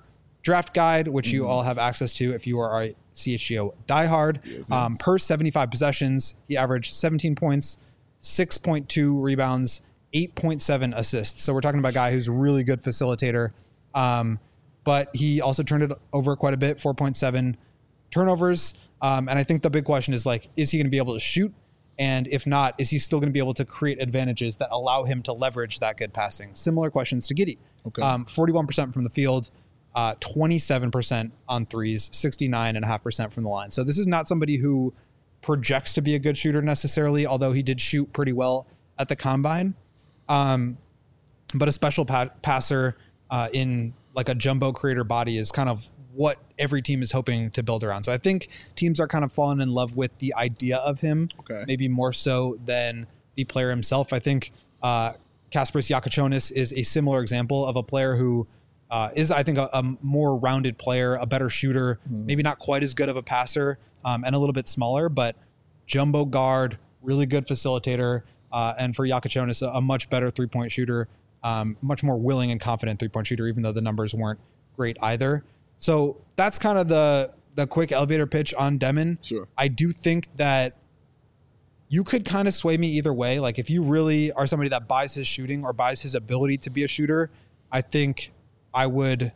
draft guide, which Mm-hmm. you all have access to if you are a C H G O diehard. Yes, Um, yes. per seventy-five possessions, he averaged seventeen points, six point two rebounds, eight point seven assists. So we're talking about a guy who's a really good facilitator. Um, but he also turned it over quite a bit, four point seven turnovers. Um, and I think the big question is like, is he going to be able to shoot? And if not, is he still going to be able to create advantages that allow him to leverage that good passing? Similar questions to Giddey. Okay. Um, forty-one percent from the field, uh, twenty-seven percent on threes, sixty-nine point five percent from the line. So this is not somebody who projects to be a good shooter necessarily, although he did shoot pretty well at the combine. Um, but a special pa- passer uh, in like a jumbo creator body is kind of what every team is hoping to build around. So I think teams are kind of falling in love with the idea of him, Okay. maybe more so than the player himself. I think uh, Kasparis Yakachonis is a similar example of a player who uh, is, I think, a, a more rounded player, a better shooter, Mm-hmm. maybe not quite as good of a passer, um, and a little bit smaller, but jumbo guard, really good facilitator, uh, and for Yakachonis, a, a much better three-point shooter, um, much more willing and confident three-point shooter, even though the numbers weren't great either. So that's kind of the the quick elevator pitch on Demon. Sure. I do think that you could kind of sway me either way. Like if you really are somebody that buys his shooting or buys his ability to be a shooter, I think I would,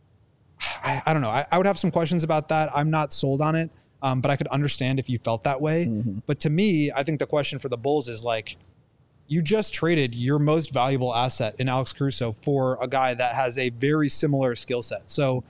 I, I don't know. I, I would have some questions about that. I'm not sold on it, um, but I could understand if you felt that way. Mm-hmm. But to me, I think the question for the Bulls is like, you just traded your most valuable asset in Alex Caruso for a guy that has a very similar skill set. So,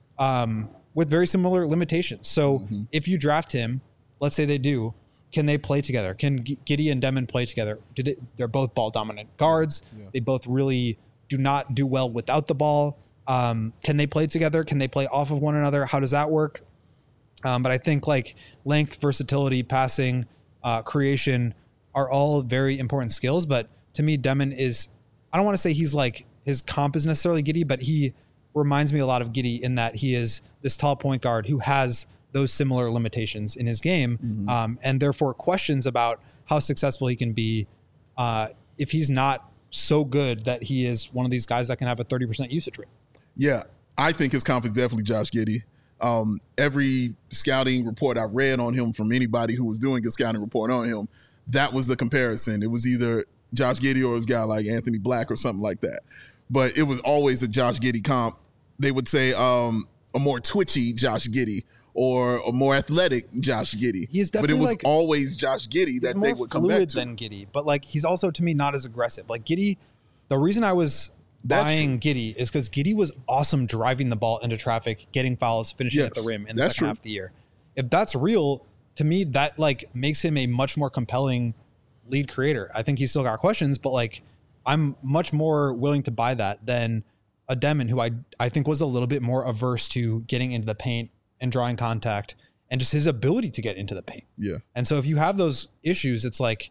um, with very similar limitations. So Mm-hmm. if you draft him, let's say they do, can they play together? Can G- Giddey and Demon play together? Do they, they're both ball dominant guards. Yeah. They both really do not do well without the ball. Um, can they play together? Can they play off of one another? How does that work? Um, but I think like length, versatility, passing, uh, creation are all very important skills. But to me, Demon is, I don't want to say he's like, his comp is necessarily Giddey, but he reminds me a lot of Giddey in that he is this tall point guard who has those similar limitations in his game, Mm-hmm. um, and therefore questions about how successful he can be uh, if he's not so good that he is one of these guys that can have a thirty percent usage rate. Yeah, I think his comp is definitely Josh Giddey. Um, every scouting report I read on him from anybody who was doing a scouting report on him, that was the comparison. It was either Josh Giddey or it was a guy like Anthony Black or something like that. But it was always a Josh Giddey comp. They would say um, a more twitchy Josh Giddey or a more athletic Josh Giddey. He is but it definitely was like- always Josh Giddey He's that more they would come fluid back to. than Giddey, but like he's also to me not as aggressive. Like Giddey, the reason I was That's buying Giddey is because Giddey was awesome driving the ball into traffic, getting fouls, finishing at the Yes, rim in the that's second true. half of the year. If that's real, to me, that like makes him a much more compelling lead creator. I think he's still got questions, but like I'm much more willing to buy that than a Demon who I I think was a little bit more averse to getting into the paint and drawing contact and just his ability to get into the paint. Yeah. And so if you have those issues, it's like,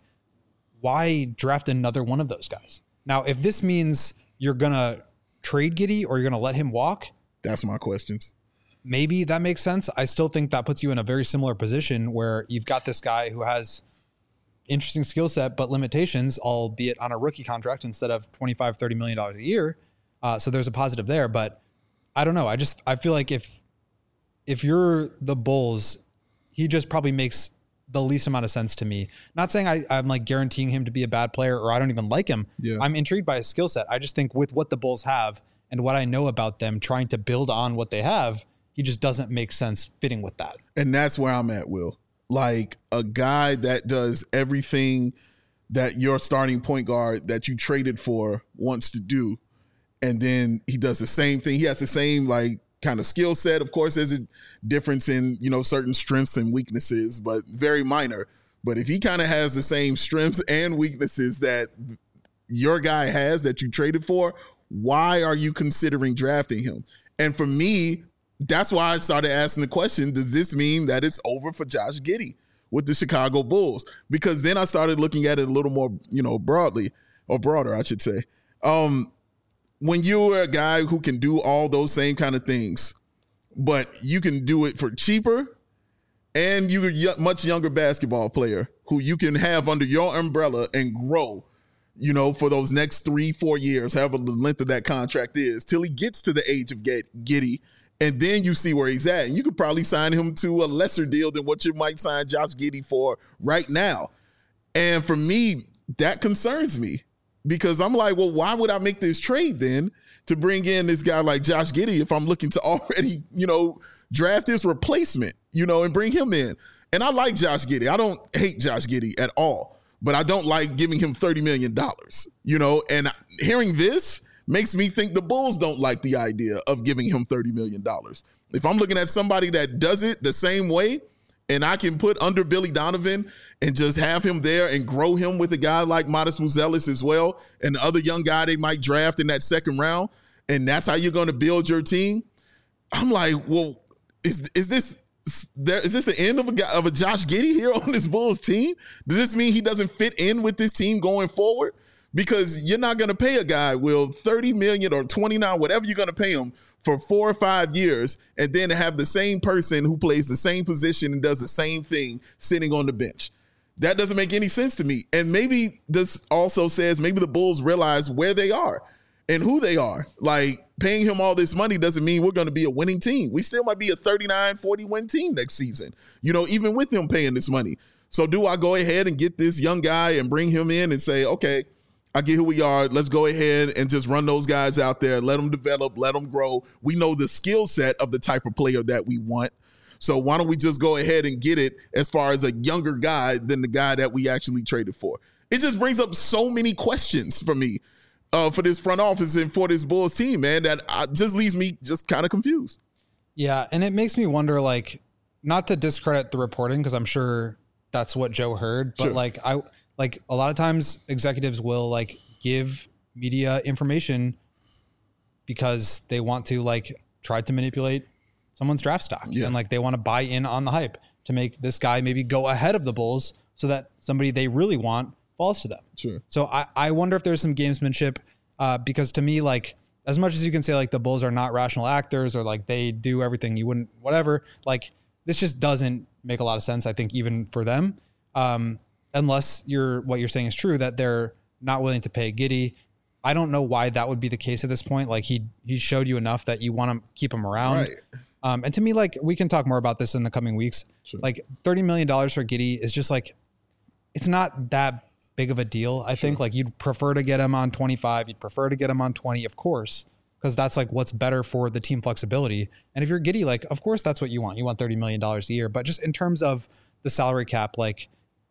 why draft another one of those guys? Now, if this means you're going to trade Giddey or you're going to let him walk, That's my questions. maybe that makes sense. I still think that puts you in a very similar position where you've got this guy who has interesting skill set, but limitations, albeit on a rookie contract instead of twenty-five, thirty million dollars a year. Uh, so there's a positive there, but I don't know. I just, I feel like if, if you're the Bulls, he just probably makes the least amount of sense to me. Not saying I, I'm like guaranteeing him to be a bad player or I don't even like him. Yeah. I'm intrigued by his skill set. I just think with what the Bulls have and what I know about them trying to build on what they have, he just doesn't make sense fitting with that. And that's where I'm at, Will. Like a guy that does everything that your starting point guard that you traded for wants to do. And then he does the same thing. He has the same like kind of skill set. Of course, there's a difference in, you know, certain strengths and weaknesses, but very minor. But if he kind of has the same strengths and weaknesses that your guy has that you traded for, why are you considering drafting him? And for me, that's why I started asking the question, does this mean that it's over for Josh Giddey with the Chicago Bulls? Because then I started looking at it a little more, you know, broadly, or broader, I should say. Um, when you're a guy who can do all those same kind of things, but you can do it for cheaper, and you're a much younger basketball player who you can have under your umbrella and grow, you know, for those next three, four years, however the length of that contract is, till he gets to the age of get Giddey And then you see where he's at. And you could probably sign him to a lesser deal than what you might sign Josh Giddey for right now. And for me, that concerns me because I'm like, well, why would I make this trade then to bring in this guy like Josh Giddey if I'm looking to already, you know, draft his replacement, you know, and bring him in? And I like Josh Giddey. I don't hate Josh Giddey at all, but I don't like giving him thirty million dollars, you know, and hearing this makes me think the Bulls don't like the idea of giving him thirty million dollars. If I'm looking at somebody that does it the same way and I can put under Billy Donovan and just have him there and grow him with a guy like Modest Mouzelis as well and the other young guy they might draft in that second round, and that's how you're going to build your team, I'm like, well, is is this there, is this the end of a guy, of a Josh Giddey here on this Bulls team? Does this mean he doesn't fit in with this team going forward? Because you're not going to pay a guy, Will, thirty million dollars or twenty-nine, whatever you're going to pay him for four or five years, and then to have the same person who plays the same position and does the same thing sitting on the bench. That doesn't make any sense to me. And maybe this also says maybe the Bulls realize where they are and who they are. Like, paying him all this money doesn't mean we're going to be a winning team. We still might be a thirty-nine, forty win team next season, you know, even with him paying this money. So do I go ahead and get this young guy and bring him in and say, okay, I get who we are. Let's go ahead and just run those guys out there. Let them develop. Let them grow. We know the skill set of the type of player that we want. So why don't we just go ahead and get it as far as a younger guy than the guy that we actually traded for? It just brings up so many questions for me uh, for this front office and for this Bulls team, man, that uh, just leaves me just kind of confused. Yeah, and it makes me wonder, like, not to discredit the reporting because I'm sure that's what Joe heard, but sure. like I – Like a lot of times executives will like give media information because they want to like try to manipulate someone's draft stock. Yeah. And like they want to buy in on the hype to make this guy maybe go ahead of the Bulls so that somebody they really want falls to them. Sure. So I, I wonder if there's some gamesmanship uh, because to me, like as much as you can say like the Bulls are not rational actors or like they do everything you wouldn't, whatever, like this just doesn't make a lot of sense. I think even for them. Um, Unless you're what you're saying is true, that they're not willing to pay Giddey. I don't know why that would be the case at this point. Like he he showed you enough that you want to keep him around. Right. Um, and to me, like we can talk more about this in the coming weeks. Sure. Like thirty million dollars for Giddey is just like, it's not that big of a deal. I sure. think like you'd prefer to get him on twenty-five. You'd prefer to get him on twenty, of course, because that's like what's better for the team flexibility. And if you're Giddey, like, of course, that's what you want. You want thirty million dollars a year. But just in terms of the salary cap, like,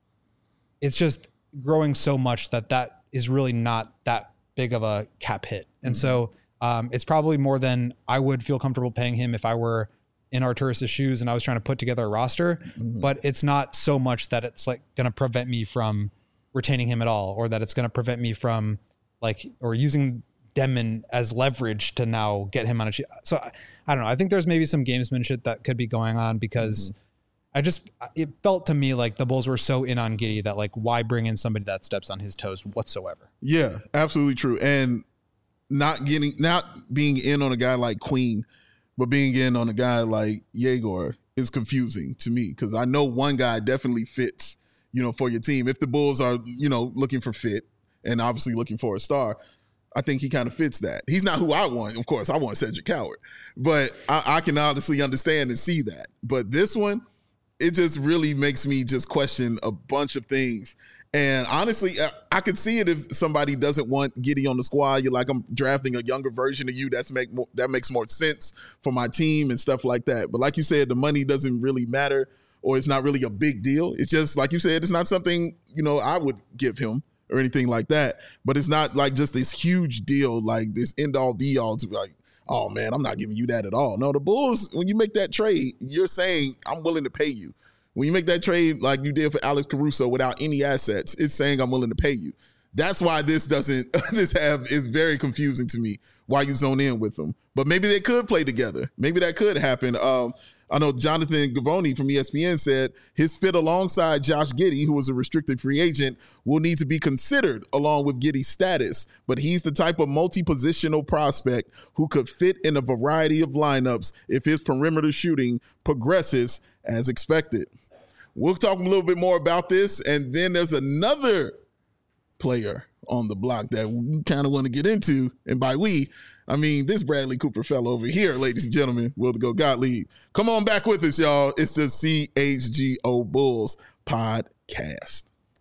it's just growing so much that that is really not that big of a cap hit. And mm-hmm. so um, it's probably more than I would feel comfortable paying him if I were in Arturas's shoes and I was trying to put together a roster, mm-hmm. but it's not so much that it's like going to prevent me from retaining him at all, or that it's going to prevent me from like, or using Dedmon as leverage to now get him on a sheet. So I, I don't know. I think there's maybe some gamesmanship that could be going on because mm-hmm. I just, it felt to me like the Bulls were so in on Giddey that like, why bring in somebody that steps on his toes whatsoever? Yeah, absolutely true. And not getting, not being in on a guy like Queen, but being in on a guy like Yegor is confusing to me because I know one guy definitely fits, you know, for your team. If the Bulls are, you know, looking for fit and obviously looking for a star, I think he kind of fits that. He's not who I want. Of course, I want Cedric Howard, but I, I can honestly understand and see that. But this one, it just really makes me just question a bunch of things. And honestly, I could see it if somebody doesn't want Giddey on the squad. You're like, I'm drafting a younger version of you. That's make more, that makes more sense for my team and stuff like that. But like you said, the money doesn't really matter, or it's not really a big deal. It's just, like you said, it's not something, you know, I would give him or anything like that. But it's not like just this huge deal, like this end all be all to like, oh man, I'm not giving you that at all. No, the Bulls, when you make that trade, you're saying I'm willing to pay you. When you make that trade like you did for Alex Caruso without any assets, it's saying I'm willing to pay you. That's why this doesn't, this have is very confusing to me why you zone in with them. But maybe they could play together. Maybe that could happen. Um, I know Jonathan Givony from E S P N said his fit alongside Josh Giddey, who was a restricted free agent, will need to be considered along with Giddey's status. But he's the type of multi-positional prospect who could fit in a variety of lineups if his perimeter shooting progresses as expected. We'll talk a little bit more about this. And then there's another player on the block that we kind of want to get into. And by we, I mean, this Bradley Cooper fella over here, ladies and gentlemen, will go Gottlieb. Come on back with us, y'all. It's the C H G O Bulls podcast.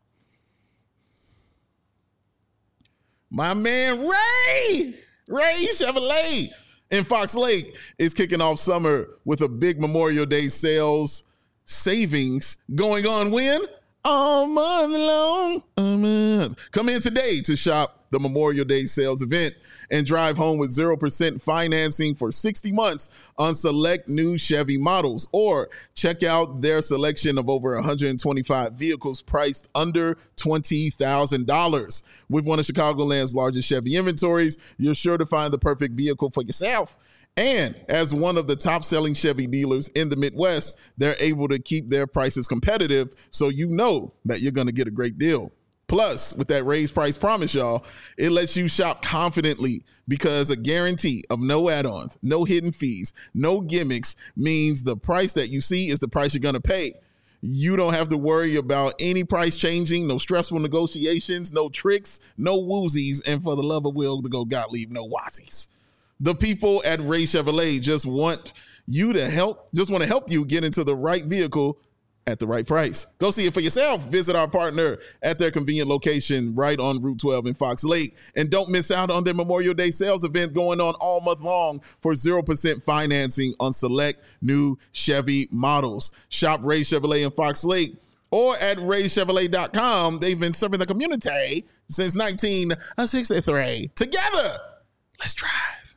My man Ray, Ray Chevrolet in Fox Lake is kicking off summer with a big Memorial Day sales savings going on when? All month long. All month. Come in today to shop the Memorial Day sales event and drive home with zero percent financing for sixty months on select new Chevy models, or check out their selection of over one hundred twenty-five vehicles priced under twenty thousand dollars. With one of Chicagoland's largest Chevy inventories, you're sure to find the perfect vehicle for yourself. And as one of the top-selling Chevy dealers in the Midwest, they're able to keep their prices competitive, so you know that you're going to get a great deal. Plus, with that raised price promise, y'all, it lets you shop confidently because a guarantee of no add-ons, no hidden fees, no gimmicks means the price that you see is the price you're going to pay. You don't have to worry about any price changing, no stressful negotiations, no tricks, no woozies, and for the love of Will to go Gottlieb, no wazzies. The people at Ray Chevrolet just want you to help, just want to help you get into the right vehicle at the right price. Go see it for yourself. Visit our partner at their convenient location right on Route twelve in Fox Lake. And don't miss out on their Memorial Day sales event going on all month long for zero percent financing on select new Chevy models. Shop Ray Chevrolet in Fox Lake or at ray chevrolet dot com. They've been serving the community since nineteen sixty-three. Together, let's drive.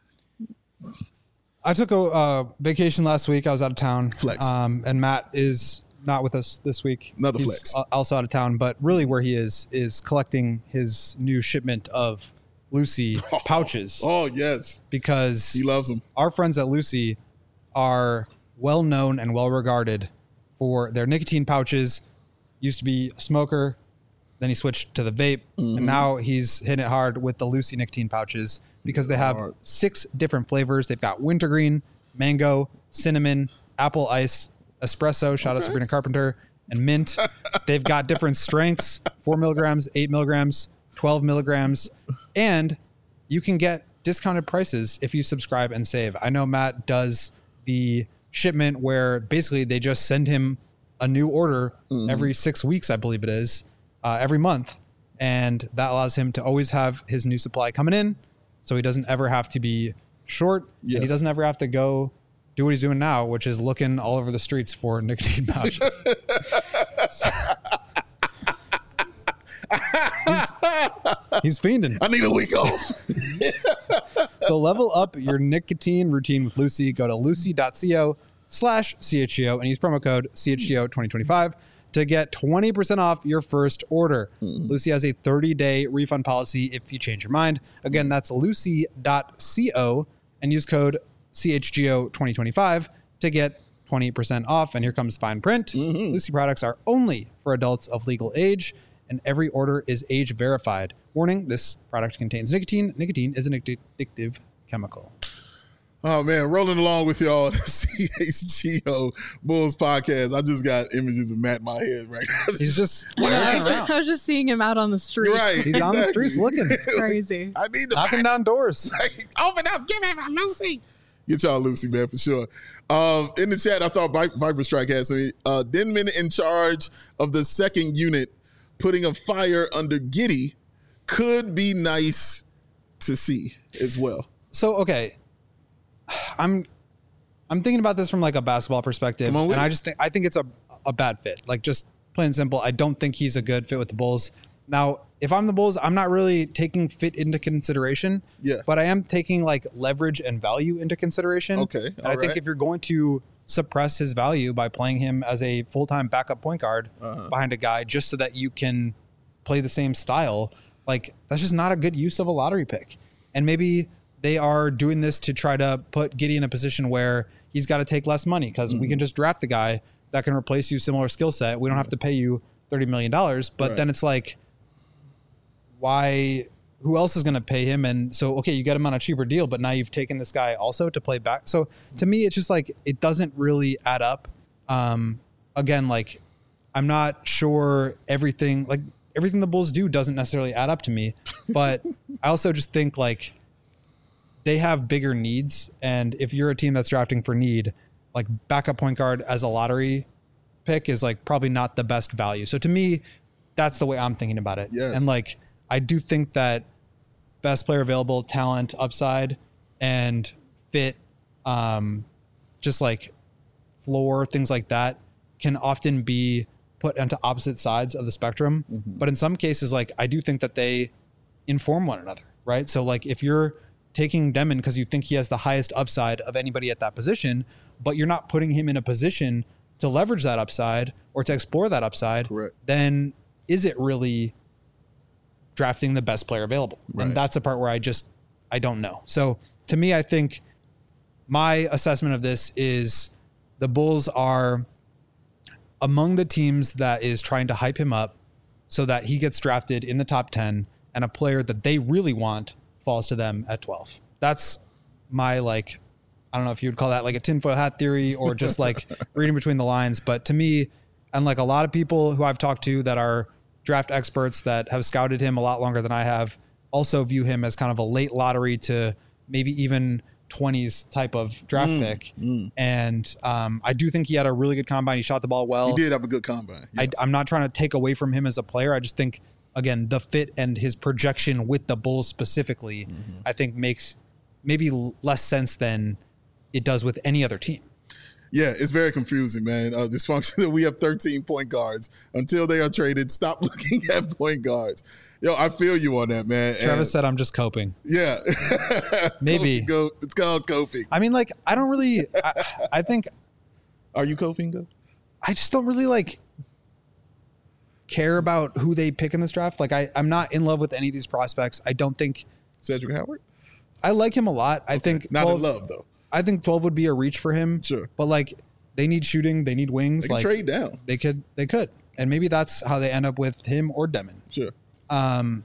I took a uh, vacation last week. I was out of town. Flex. Um, and Matt is not with us this week. Another He's flex. Also out of town, but really where he is is collecting his new shipment of Lucy Oh, pouches. Oh, yes. Because He loves them. our friends at Lucy are well known and well regarded for their nicotine pouches. Used to be a smoker, then he switched to the vape, Mm-hmm. and now he's hitting it hard with the Lucy nicotine pouches because they have Hard. six different flavors. They've got wintergreen, mango, cinnamon, apple ice, espresso, shout out Sabrina Carpenter, and mint. They've got different strengths, four milligrams, eight milligrams, twelve milligrams, and you can get discounted prices if you subscribe and save. I know Matt does the shipment where basically they just send him a new order mm-hmm. every six weeks, I believe it is, uh, every month. And that allows him to always have his new supply coming in, so he doesn't ever have to be short, yes. and he doesn't ever have to go do what he's doing now, which is looking all over the streets for nicotine pouches. so, he's, he's fiending. I need a week off. So level up your nicotine routine with Lucy. Go to lucy.co slash CHGO and use promo code C H G O twenty twenty-five to get twenty percent off your first order. Mm-hmm. Lucy has a thirty-day refund policy if you change your mind. Again, that's lucy.co and use code C H G O twenty twenty-five to get twenty percent off. And here comes fine print. Mm-hmm. Lucy products are only for adults of legal age, and every order is age verified. Warning, this product contains nicotine. Nicotine is an addictive chemical. Oh, man, rolling along with y'all, the C H G O Bulls podcast. I just got images of Matt in my head right now. He's just I, know, I, was, I was just seeing him out on the streets. You're right. He's exactly. on the streets looking. It's crazy. I need the knocking down doors. Open up. Give me my Lucy. Get y'all Lucy, man, for sure. Um, in the chat, I thought Viper Strike had some. Uh, Denman in charge of the second unit, putting a fire under Giddey could be nice to see as well. So, okay. I'm I'm thinking about this from like a basketball perspective, and I just think I think it's a a bad fit. Like, just plain and simple, I don't think he's a good fit with the Bulls. Now, if I'm the Bulls, I'm not really taking fit into consideration. Yeah. But I am taking like leverage and value into consideration. Okay. And I right. think if you're going to suppress his value by playing him as a full-time backup point guard uh-huh. behind a guy just so that you can play the same style, like that's just not a good use of a lottery pick. And maybe they are doing this to try to put Giddey in a position where he's got to take less money because mm-hmm. we can just draft a guy that can replace you, similar skill set. We don't have to pay you thirty million dollars. But right. then it's like, why, who else is going to pay him? And so, okay, you get him on a cheaper deal, but now you've taken this guy also to play back. So to me, it's just like, it doesn't really add up. Um, again, like, I'm not sure everything, like everything the Bulls do doesn't necessarily add up to me, but I also just think like, they have bigger needs. And if you're a team that's drafting for need, like backup point guard as a lottery pick is like probably not the best value. So to me, that's the way I'm thinking about it. Yes. And like, I do think that best player available, talent, upside, and fit, um, just like floor, things like that can often be put onto opposite sides of the spectrum. Mm-hmm. But in some cases, like I do think that they inform one another, right? So like if you're taking Demon because you think he has the highest upside of anybody at that position, but you're not putting him in a position to leverage that upside or to explore that upside, Correct. Then is it really drafting the best player available? Right. And that's the part where I just, I don't know. So to me, I think my assessment of this is the Bulls are among the teams that is trying to hype him up so that he gets drafted in the top ten and a player that they really want falls to them at twelve. That's my, like, I don't know if you would call that like a tinfoil hat theory or just like reading between the lines. But to me, and like a lot of people who I've talked to that are draft experts that have scouted him a lot longer than I have also view him as kind of a late lottery to maybe even twenties type of draft mm, pick. Mm. And um, I do think he had a really good combine. He shot the ball well. He did have a good combine. Yes. I, I'm not trying to take away from him as a player. I just think, again, the fit and his projection with the Bulls specifically, mm-hmm. I think makes maybe less sense than it does with any other team. Yeah, it's very confusing, man. Uh, dysfunction. We have thirteen point guards until they are traded. Stop looking at point guards. Yo, I feel you on that, man. Travis and, said I'm just coping. Yeah. Maybe. Go, it's called coping. I mean, like, I don't really, I, I think. Are you coping, though? I just don't really, like, care about who they pick in this draft. Like, I, I'm not in love with any of these prospects. I don't think. Cedric Howard? I like him a lot. Okay. I think. Not twelve, in love, though. I think twelve would be a reach for him. Sure. But, like, they need shooting. They need wings. They can like, trade down. They could. They could. And maybe that's how they end up with him or Demon. Sure. Um,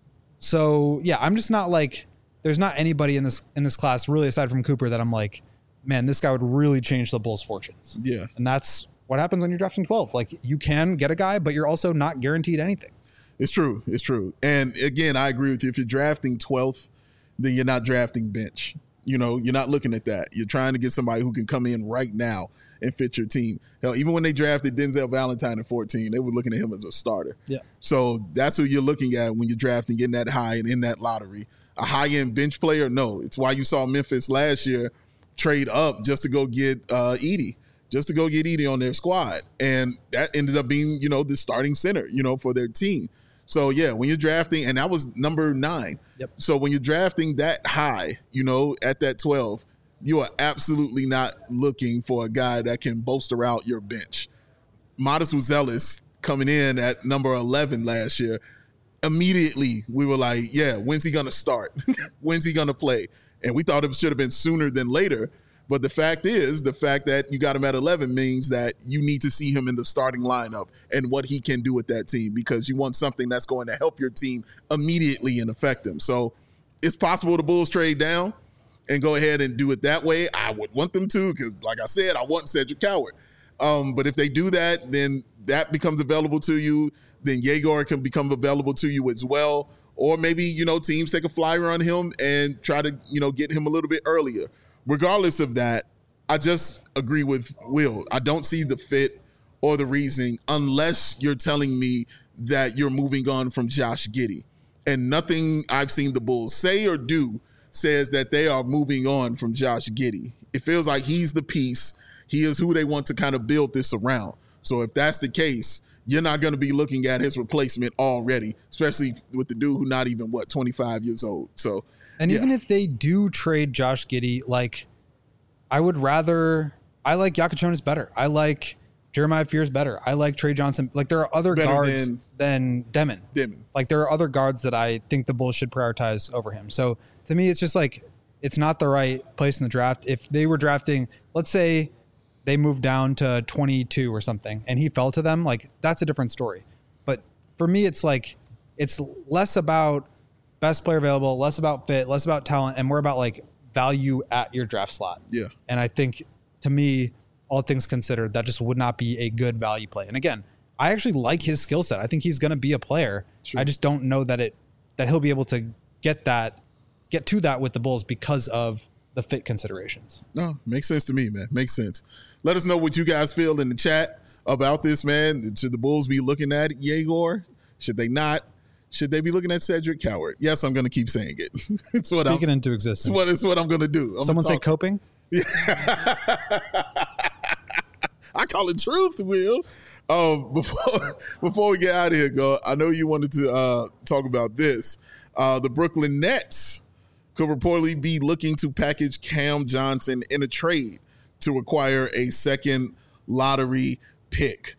so yeah, I'm just not like, there's not anybody in this, in this class really aside from Cooper that I'm like, man, this guy would really change the Bulls' fortunes. Yeah. And that's what happens when you're drafting twelve. Like you can get a guy, but you're also not guaranteed anything. It's true. It's true. And again, I agree with you. If you're drafting twelfth, then you're not drafting bench. You know, you're not looking at that. You're trying to get somebody who can come in right now and fit your team. Hell, even when they drafted Denzel Valentine at fourteen, they were looking at him as a starter. Yeah. So that's who you're looking at when you're drafting in that high and in that lottery. A high-end bench player? No. It's why you saw Memphis last year trade up just to go get uh, Edey, just to go get Edey on their squad. And that ended up being, you know, the starting center, you know, for their team. So, yeah, when you're drafting, and that was number nine. Yep. So when you're drafting that high, you know, at that twelve, you are absolutely not looking for a guy that can bolster out your bench. Modest Uzelis coming in at number eleven last year, immediately we were like, yeah, when's he going to start? When's he going to play? And we thought it should have been sooner than later. But the fact is, the fact that you got him at eleven means that you need to see him in the starting lineup and what he can do with that team, because you want something that's going to help your team immediately and affect them. So it's possible the Bulls trade down and go ahead and do it that way. I would want them to, because like I said, I want Cedric Howard. Um, but if they do that, then that becomes available to you. Then Yegor can become available to you as well. Or maybe, you know, teams take a flyer on him and try to, you know, get him a little bit earlier. Regardless of that, I just agree with Will. I don't see the fit or the reasoning unless you're telling me that you're moving on from Josh Giddey. And nothing I've seen the Bulls say or do says that they are moving on from Josh Giddey. It feels like he's the piece. He is who they want to kind of build this around. So if that's the case, you're not going to be looking at his replacement already, especially with the dude who's not even, what, twenty-five years old. So, and yeah. even if they do trade Josh Giddey, like, I would rather, I like Yakuchonis better. I like Jeremiah Fears better. I like Trey Johnson. Like, there are other better guards than, than Demon. Demon. Like, there are other guards that I think the Bulls should prioritize over him. So, to me, it's just like, it's not the right place in the draft. If they were drafting, let's say they moved down to twenty-two or something and he fell to them, like, that's a different story. But for me, it's like, it's less about best player available, less about fit, less about talent, and more about like value at your draft slot. Yeah. And I think, to me, all things considered, that just would not be a good value play. And again, I actually like his skill set. I think he's going to be a player. Sure. I just don't know that it, that he'll be able to get that get to that with the Bulls because of the fit considerations. No, makes sense to me, man. Makes sense. Let us know what you guys feel in the chat about this, man. Should the Bulls be looking at Yegor? Should they not? Should they be looking at Cedric Coward? Yes, I'm going to keep saying it. It's what Speaking I'm, into existence. It's what, it's what I'm going to do. I'm Someone say talk- coping? Yeah. I call it truth, Will. Um, before before we get out of here, go. I know you wanted to uh, talk about this. Uh, the Brooklyn Nets could reportedly be looking to package Cam Johnson in a trade to acquire a second lottery pick.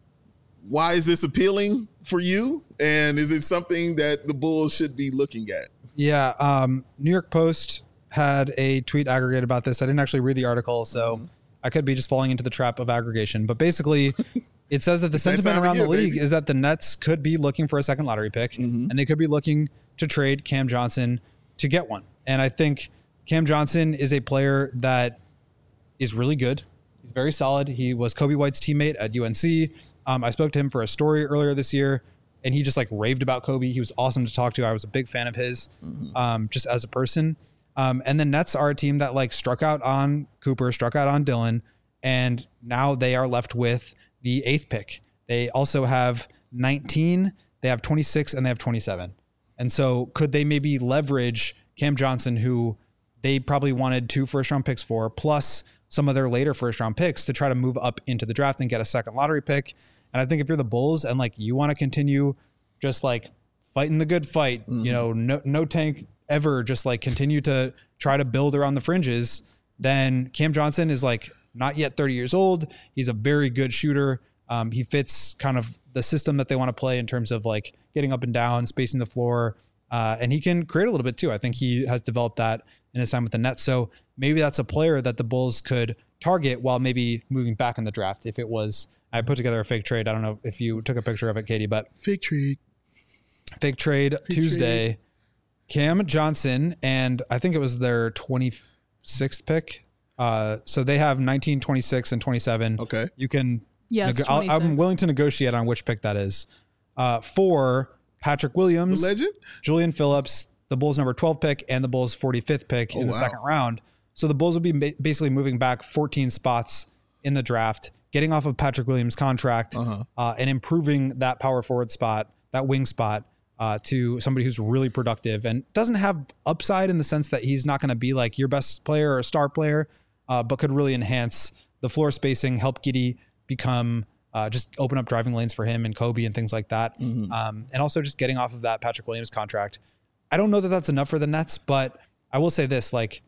Why is this appealing for you? And is it something that the Bulls should be looking at? Yeah. Um, New York Post had a tweet aggregate about this. I didn't actually read the article, so mm-hmm. I could be just falling into the trap of aggregation. But basically, it says that the sentiment around year, the league baby. is that the Nets could be looking for a second lottery pick, mm-hmm. and they could be looking to trade Cam Johnson to get one. And I think Cam Johnson is a player that is really good. He's very solid. He was Kobe White's teammate at U N C. Um, I spoke to him for a story earlier this year, and he just like raved about Kobe. He was awesome to talk to. I was a big fan of his, mm-hmm. um, just as a person. Um, and the Nets are a team that like struck out on Cooper, struck out on Dillon, and now they are left with the eighth pick. They also have nineteen, they have twenty-six, and they have twenty-seven. And so could they maybe leverage Cam Johnson, who they probably wanted two first round picks for, plus some of their later first round picks to try to move up into the draft and get a second lottery pick. And I think if you're the Bulls and like you want to continue just like fighting the good fight, mm-hmm. you know, no, no tank ever, just like continue to try to build around the fringes, then Cam Johnson is like not yet thirty years old. He's a very good shooter. Um, he fits kind of the system that they want to play in terms of like getting up and down, spacing the floor. Uh, and he can create a little bit too. I think he has developed that in his time with the Nets. So maybe that's a player that the Bulls could target while maybe moving back in the draft. If it was, I put together a fake trade. I don't know if you took a picture of it, Katie, but fake trade, fake trade fake Tuesday, trade. Cam Johnson. And I think it was their twenty-sixth pick. Uh, so they have nineteen, twenty-six, and twenty-seven. Okay. You can, yeah, neg- I'm willing to negotiate on which pick that is. Uh, for Patrick Williams, the legend, Julian Phillips, the Bulls number twelve pick, and the Bulls forty-fifth pick oh, in the wow. second round. So the Bulls will be ba- basically moving back fourteen spots in the draft, getting off of Patrick Williams' contract, uh-huh. uh, and improving that power forward spot, that wing spot, uh, to somebody who's really productive and doesn't have upside in the sense that he's not going to be like your best player or a star player, uh, but could really enhance the floor spacing, help Giddey become uh, just open up driving lanes for him and Kobe and things like that. Mm-hmm. Um, and also just getting off of that Patrick Williams contract. I don't know that that's enough for the Nets, but I will say this, like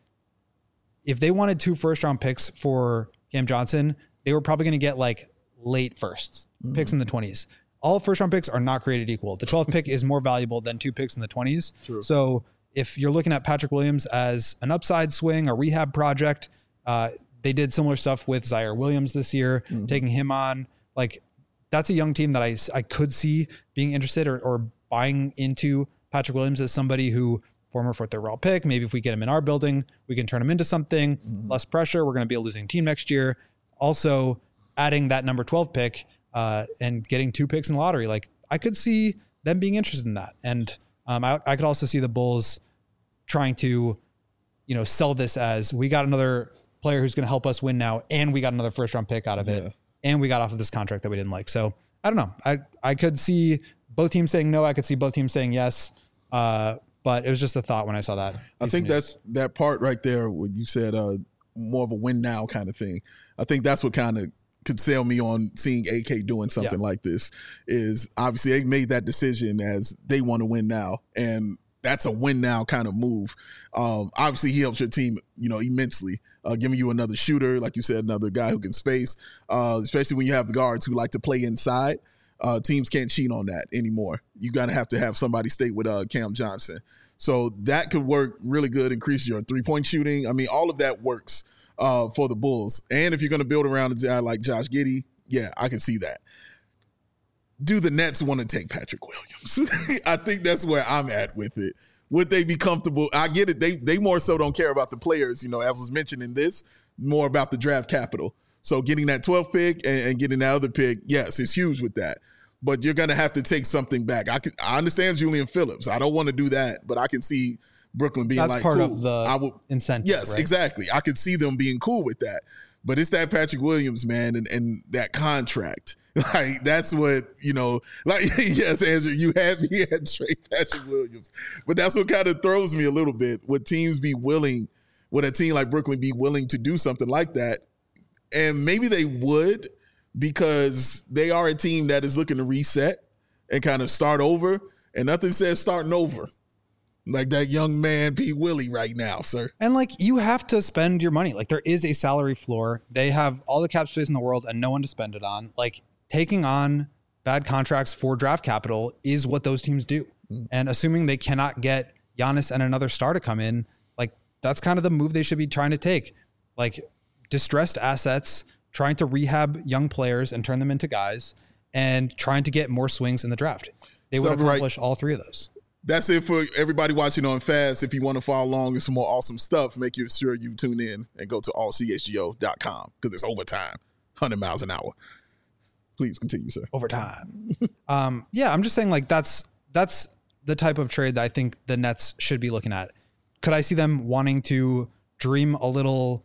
if they wanted two first round picks for Cam Johnson, they were probably going to get like late firsts, mm-hmm. picks in the twenties. All first round picks are not created equal. The twelfth pick is more valuable than two picks in the twenties. True. So if you're looking at Patrick Williams as an upside swing, a rehab project, uh, they did similar stuff with Zaire Williams this year, mm-hmm. taking him on. Like that's a young team that I, I could see being interested or, or buying into Patrick Williams as somebody who former fourth overall pick. Maybe if we get him in our building, we can turn him into something, mm-hmm. less pressure. We're going to be a losing team next year. Also adding that number twelve pick uh, and getting two picks in the lottery. Like I could see them being interested in that. And um, I, I could also see the Bulls trying to, you know, sell this as we got another player who's going to help us win now. And we got another first round pick out of it. Yeah. And we got off of this contract that we didn't like. So I don't know. I, I could see both teams saying no. I could see both teams saying yes. Uh, but it was just a thought when I saw that. I think that's that part right there when you said uh, more of a win now kind of thing. I think that's what kind of could sell me on seeing A K doing something yeah. like this is obviously they made that decision as they want to win now. And that's a win now kind of move. Um, obviously he helps your team, you know, immensely. Uh, giving you another shooter, like you said, another guy who can space, uh, especially when you have the guards who like to play inside. Uh, teams can't cheat on that anymore. You got to have to have somebody stay with uh, Cam Johnson. So that could work really good, increase your three-point shooting. I mean, all of that works uh, for the Bulls. And if you're going to build around a guy like Josh Giddey, yeah, I can see that. Do the Nets want to take Patrick Williams? I think that's where I'm at with it. Would they be comfortable? I get it. They they more so don't care about the players. You know, as was mentioned in this, more about the draft capital. So getting that twelfth pick and, and getting that other pick, yes, it's huge with that. But you're going to have to take something back. I can, I understand Julian Phillips. I don't want to do that, but I can see Brooklyn being That's like, part cool, of the I would, incentive. yes, right? exactly. I could see them being cool with that. But it's that Patrick Williams, man, and, and that contract. Like, that's what, you know, like, yes, Andrew, you had me at Trey Patrick Williams. But that's what kind of throws me a little bit. Would teams be willing, would a team like Brooklyn be willing to do something like that? And maybe they would, because they are a team that is looking to reset and kind of start over. And nothing says starting over like that young man P. Willie right now, sir. And like, you have to spend your money. Like, there is a salary floor. They have all the cap space in the world and no one to spend it on. Like, taking on bad contracts for draft capital is what those teams do. Mm. And assuming they cannot get Giannis and another star to come in, like, that's kind of the move they should be trying to take. Like, distressed assets, trying to rehab young players and turn them into guys, and trying to get more swings in the draft. They would accomplish right. all three of those. That's it for everybody watching on Fast. If you want to follow along with some more awesome stuff, make sure you tune in and go to all c h g o dot com because it's overtime, one hundred miles an hour. Please continue, sir. Overtime. um, yeah, I'm just saying, like, that's that's the type of trade that I think the Nets should be looking at. Could I see them wanting to dream a little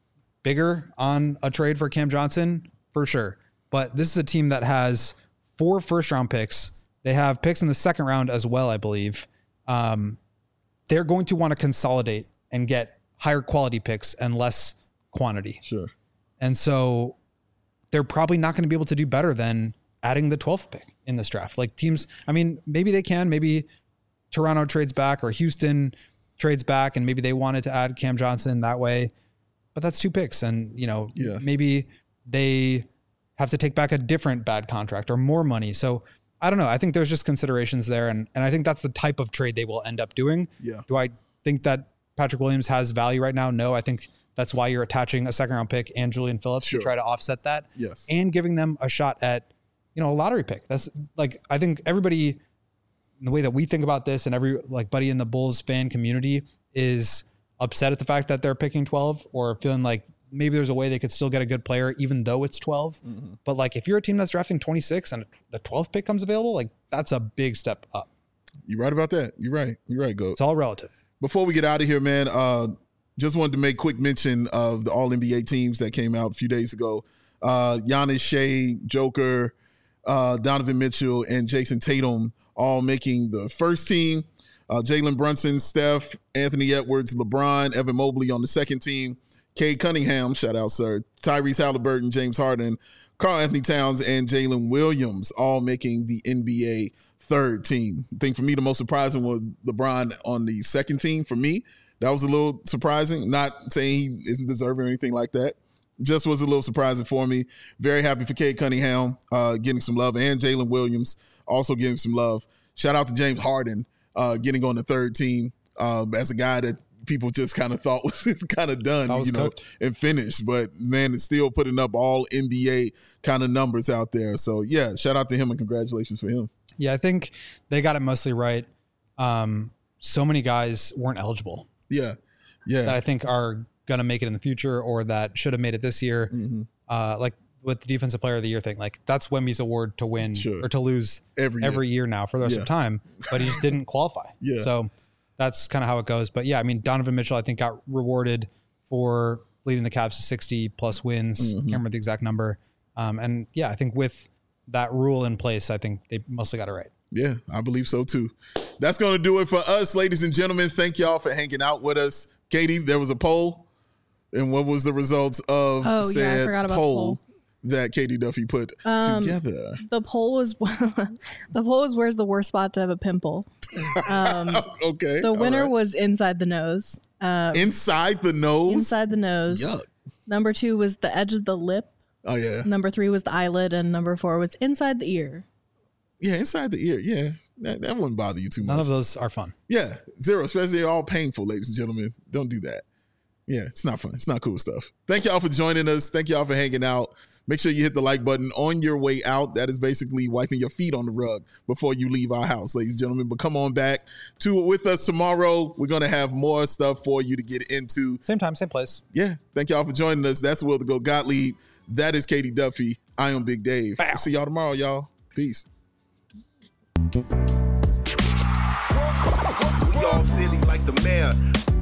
bigger on a trade for Cam Johnson? For sure. But this is a team that has four first-round picks. They have picks in the second round as well, I believe. Um, they're going to want to consolidate and get higher quality picks and less quantity. Sure. And so they're probably not going to be able to do better than adding the twelfth pick in this draft. Like, teams, I mean, maybe they can. Maybe Toronto trades back or Houston trades back, and maybe they wanted to add Cam Johnson that way. But that's two picks. And, you know, yeah. maybe they have to take back a different bad contract or more money. So I don't know. I think there's just considerations there. And, and I think that's the type of trade they will end up doing. Yeah. Do I think that Patrick Williams has value right now? No, I think that's why you're attaching a second round pick and Julian Phillips sure. to try to offset that. Yes. And giving them a shot at, you know, a lottery pick. That's like, I think everybody, the way that we think about this and every like buddy in the Bulls fan community is upset at the fact that they're picking twelve or feeling like maybe there's a way they could still get a good player even though it's twelve. Mm-hmm. But like, if you're a team that's drafting twenty-six and the twelfth pick comes available, like, that's a big step up. You're right about that. You're right. You're right, Goat. It's all relative. Before we get out of here, man, uh, just wanted to make quick mention of the All N B A teams that came out a few days ago. Uh, Giannis, Shea, Joker, uh, Donovan Mitchell, and Jason Tatum all making the first team. Uh, Jalen Brunson, Steph, Anthony Edwards, LeBron, Evan Mobley on the second team. Cade Cunningham, shout out, sir. Tyrese Halliburton, James Harden, Karl Anthony Towns, and Jalen Williams all making the N B A third team. I think for me, the most surprising was LeBron on the second team. For me, that was a little surprising. Not saying he isn't deserving or anything like that. Just was a little surprising for me. Very happy for Cade Cunningham uh, getting some love, and Jalen Williams also getting some love. Shout out to James Harden uh, getting on the third team uh, as a guy that people just kind of thought was kind of done, you know, cooked. and finished. But, man, it's still putting up all N B A kind of numbers out there. So, yeah, shout out to him and congratulations for him. Yeah, I think they got it mostly right. Um, so many guys weren't eligible. Yeah, yeah. That I think are going to make it in the future or that should have made it this year. Mm-hmm. Uh, like with the Defensive Player of the Year thing, like that's Wemby's award to win sure. or to lose every year. every year now for the rest yeah. of time, but he just didn't qualify. Yeah. So that's kind of how it goes. But yeah, I mean, Donovan Mitchell, I think, got rewarded for leading the Cavs to sixty plus wins. Mm-hmm. Can't remember the exact number. Um, and yeah, I think with that rule in place, I think they mostly got it right. Yeah, I believe so too. That's going to do it for us, ladies and gentlemen. Thank y'all for hanging out with us. Katie, there was a poll. And what was the results of oh, said yeah, I forgot about poll, the poll that Katie Duffy put um, together? The poll was the poll was where's the worst spot to have a pimple. Um, okay. The winner right. was inside the nose. Um, inside the nose? Inside the nose. Yuck. Number two was the edge of the lip. Oh, yeah. Number three was the eyelid. And number four was inside the ear. Yeah, inside the ear. Yeah, that, that wouldn't bother you too much. None of those are fun. Yeah, zero, especially all painful, ladies and gentlemen. Don't do that. Yeah, it's not fun. It's not cool stuff. Thank y'all for joining us. Thank y'all for hanging out. Make sure you hit the like button on your way out. That is basically wiping your feet on the rug before you leave our house, ladies and gentlemen. But come on back to it with us tomorrow. We're going to have more stuff for you to get into. Same time, same place. Yeah. Thank y'all for joining us. That's Will the Go Gottlieb. That is Katie Duffy. I am Big Dave. We'll see y'all tomorrow, y'all. Peace. all silly like the mayor.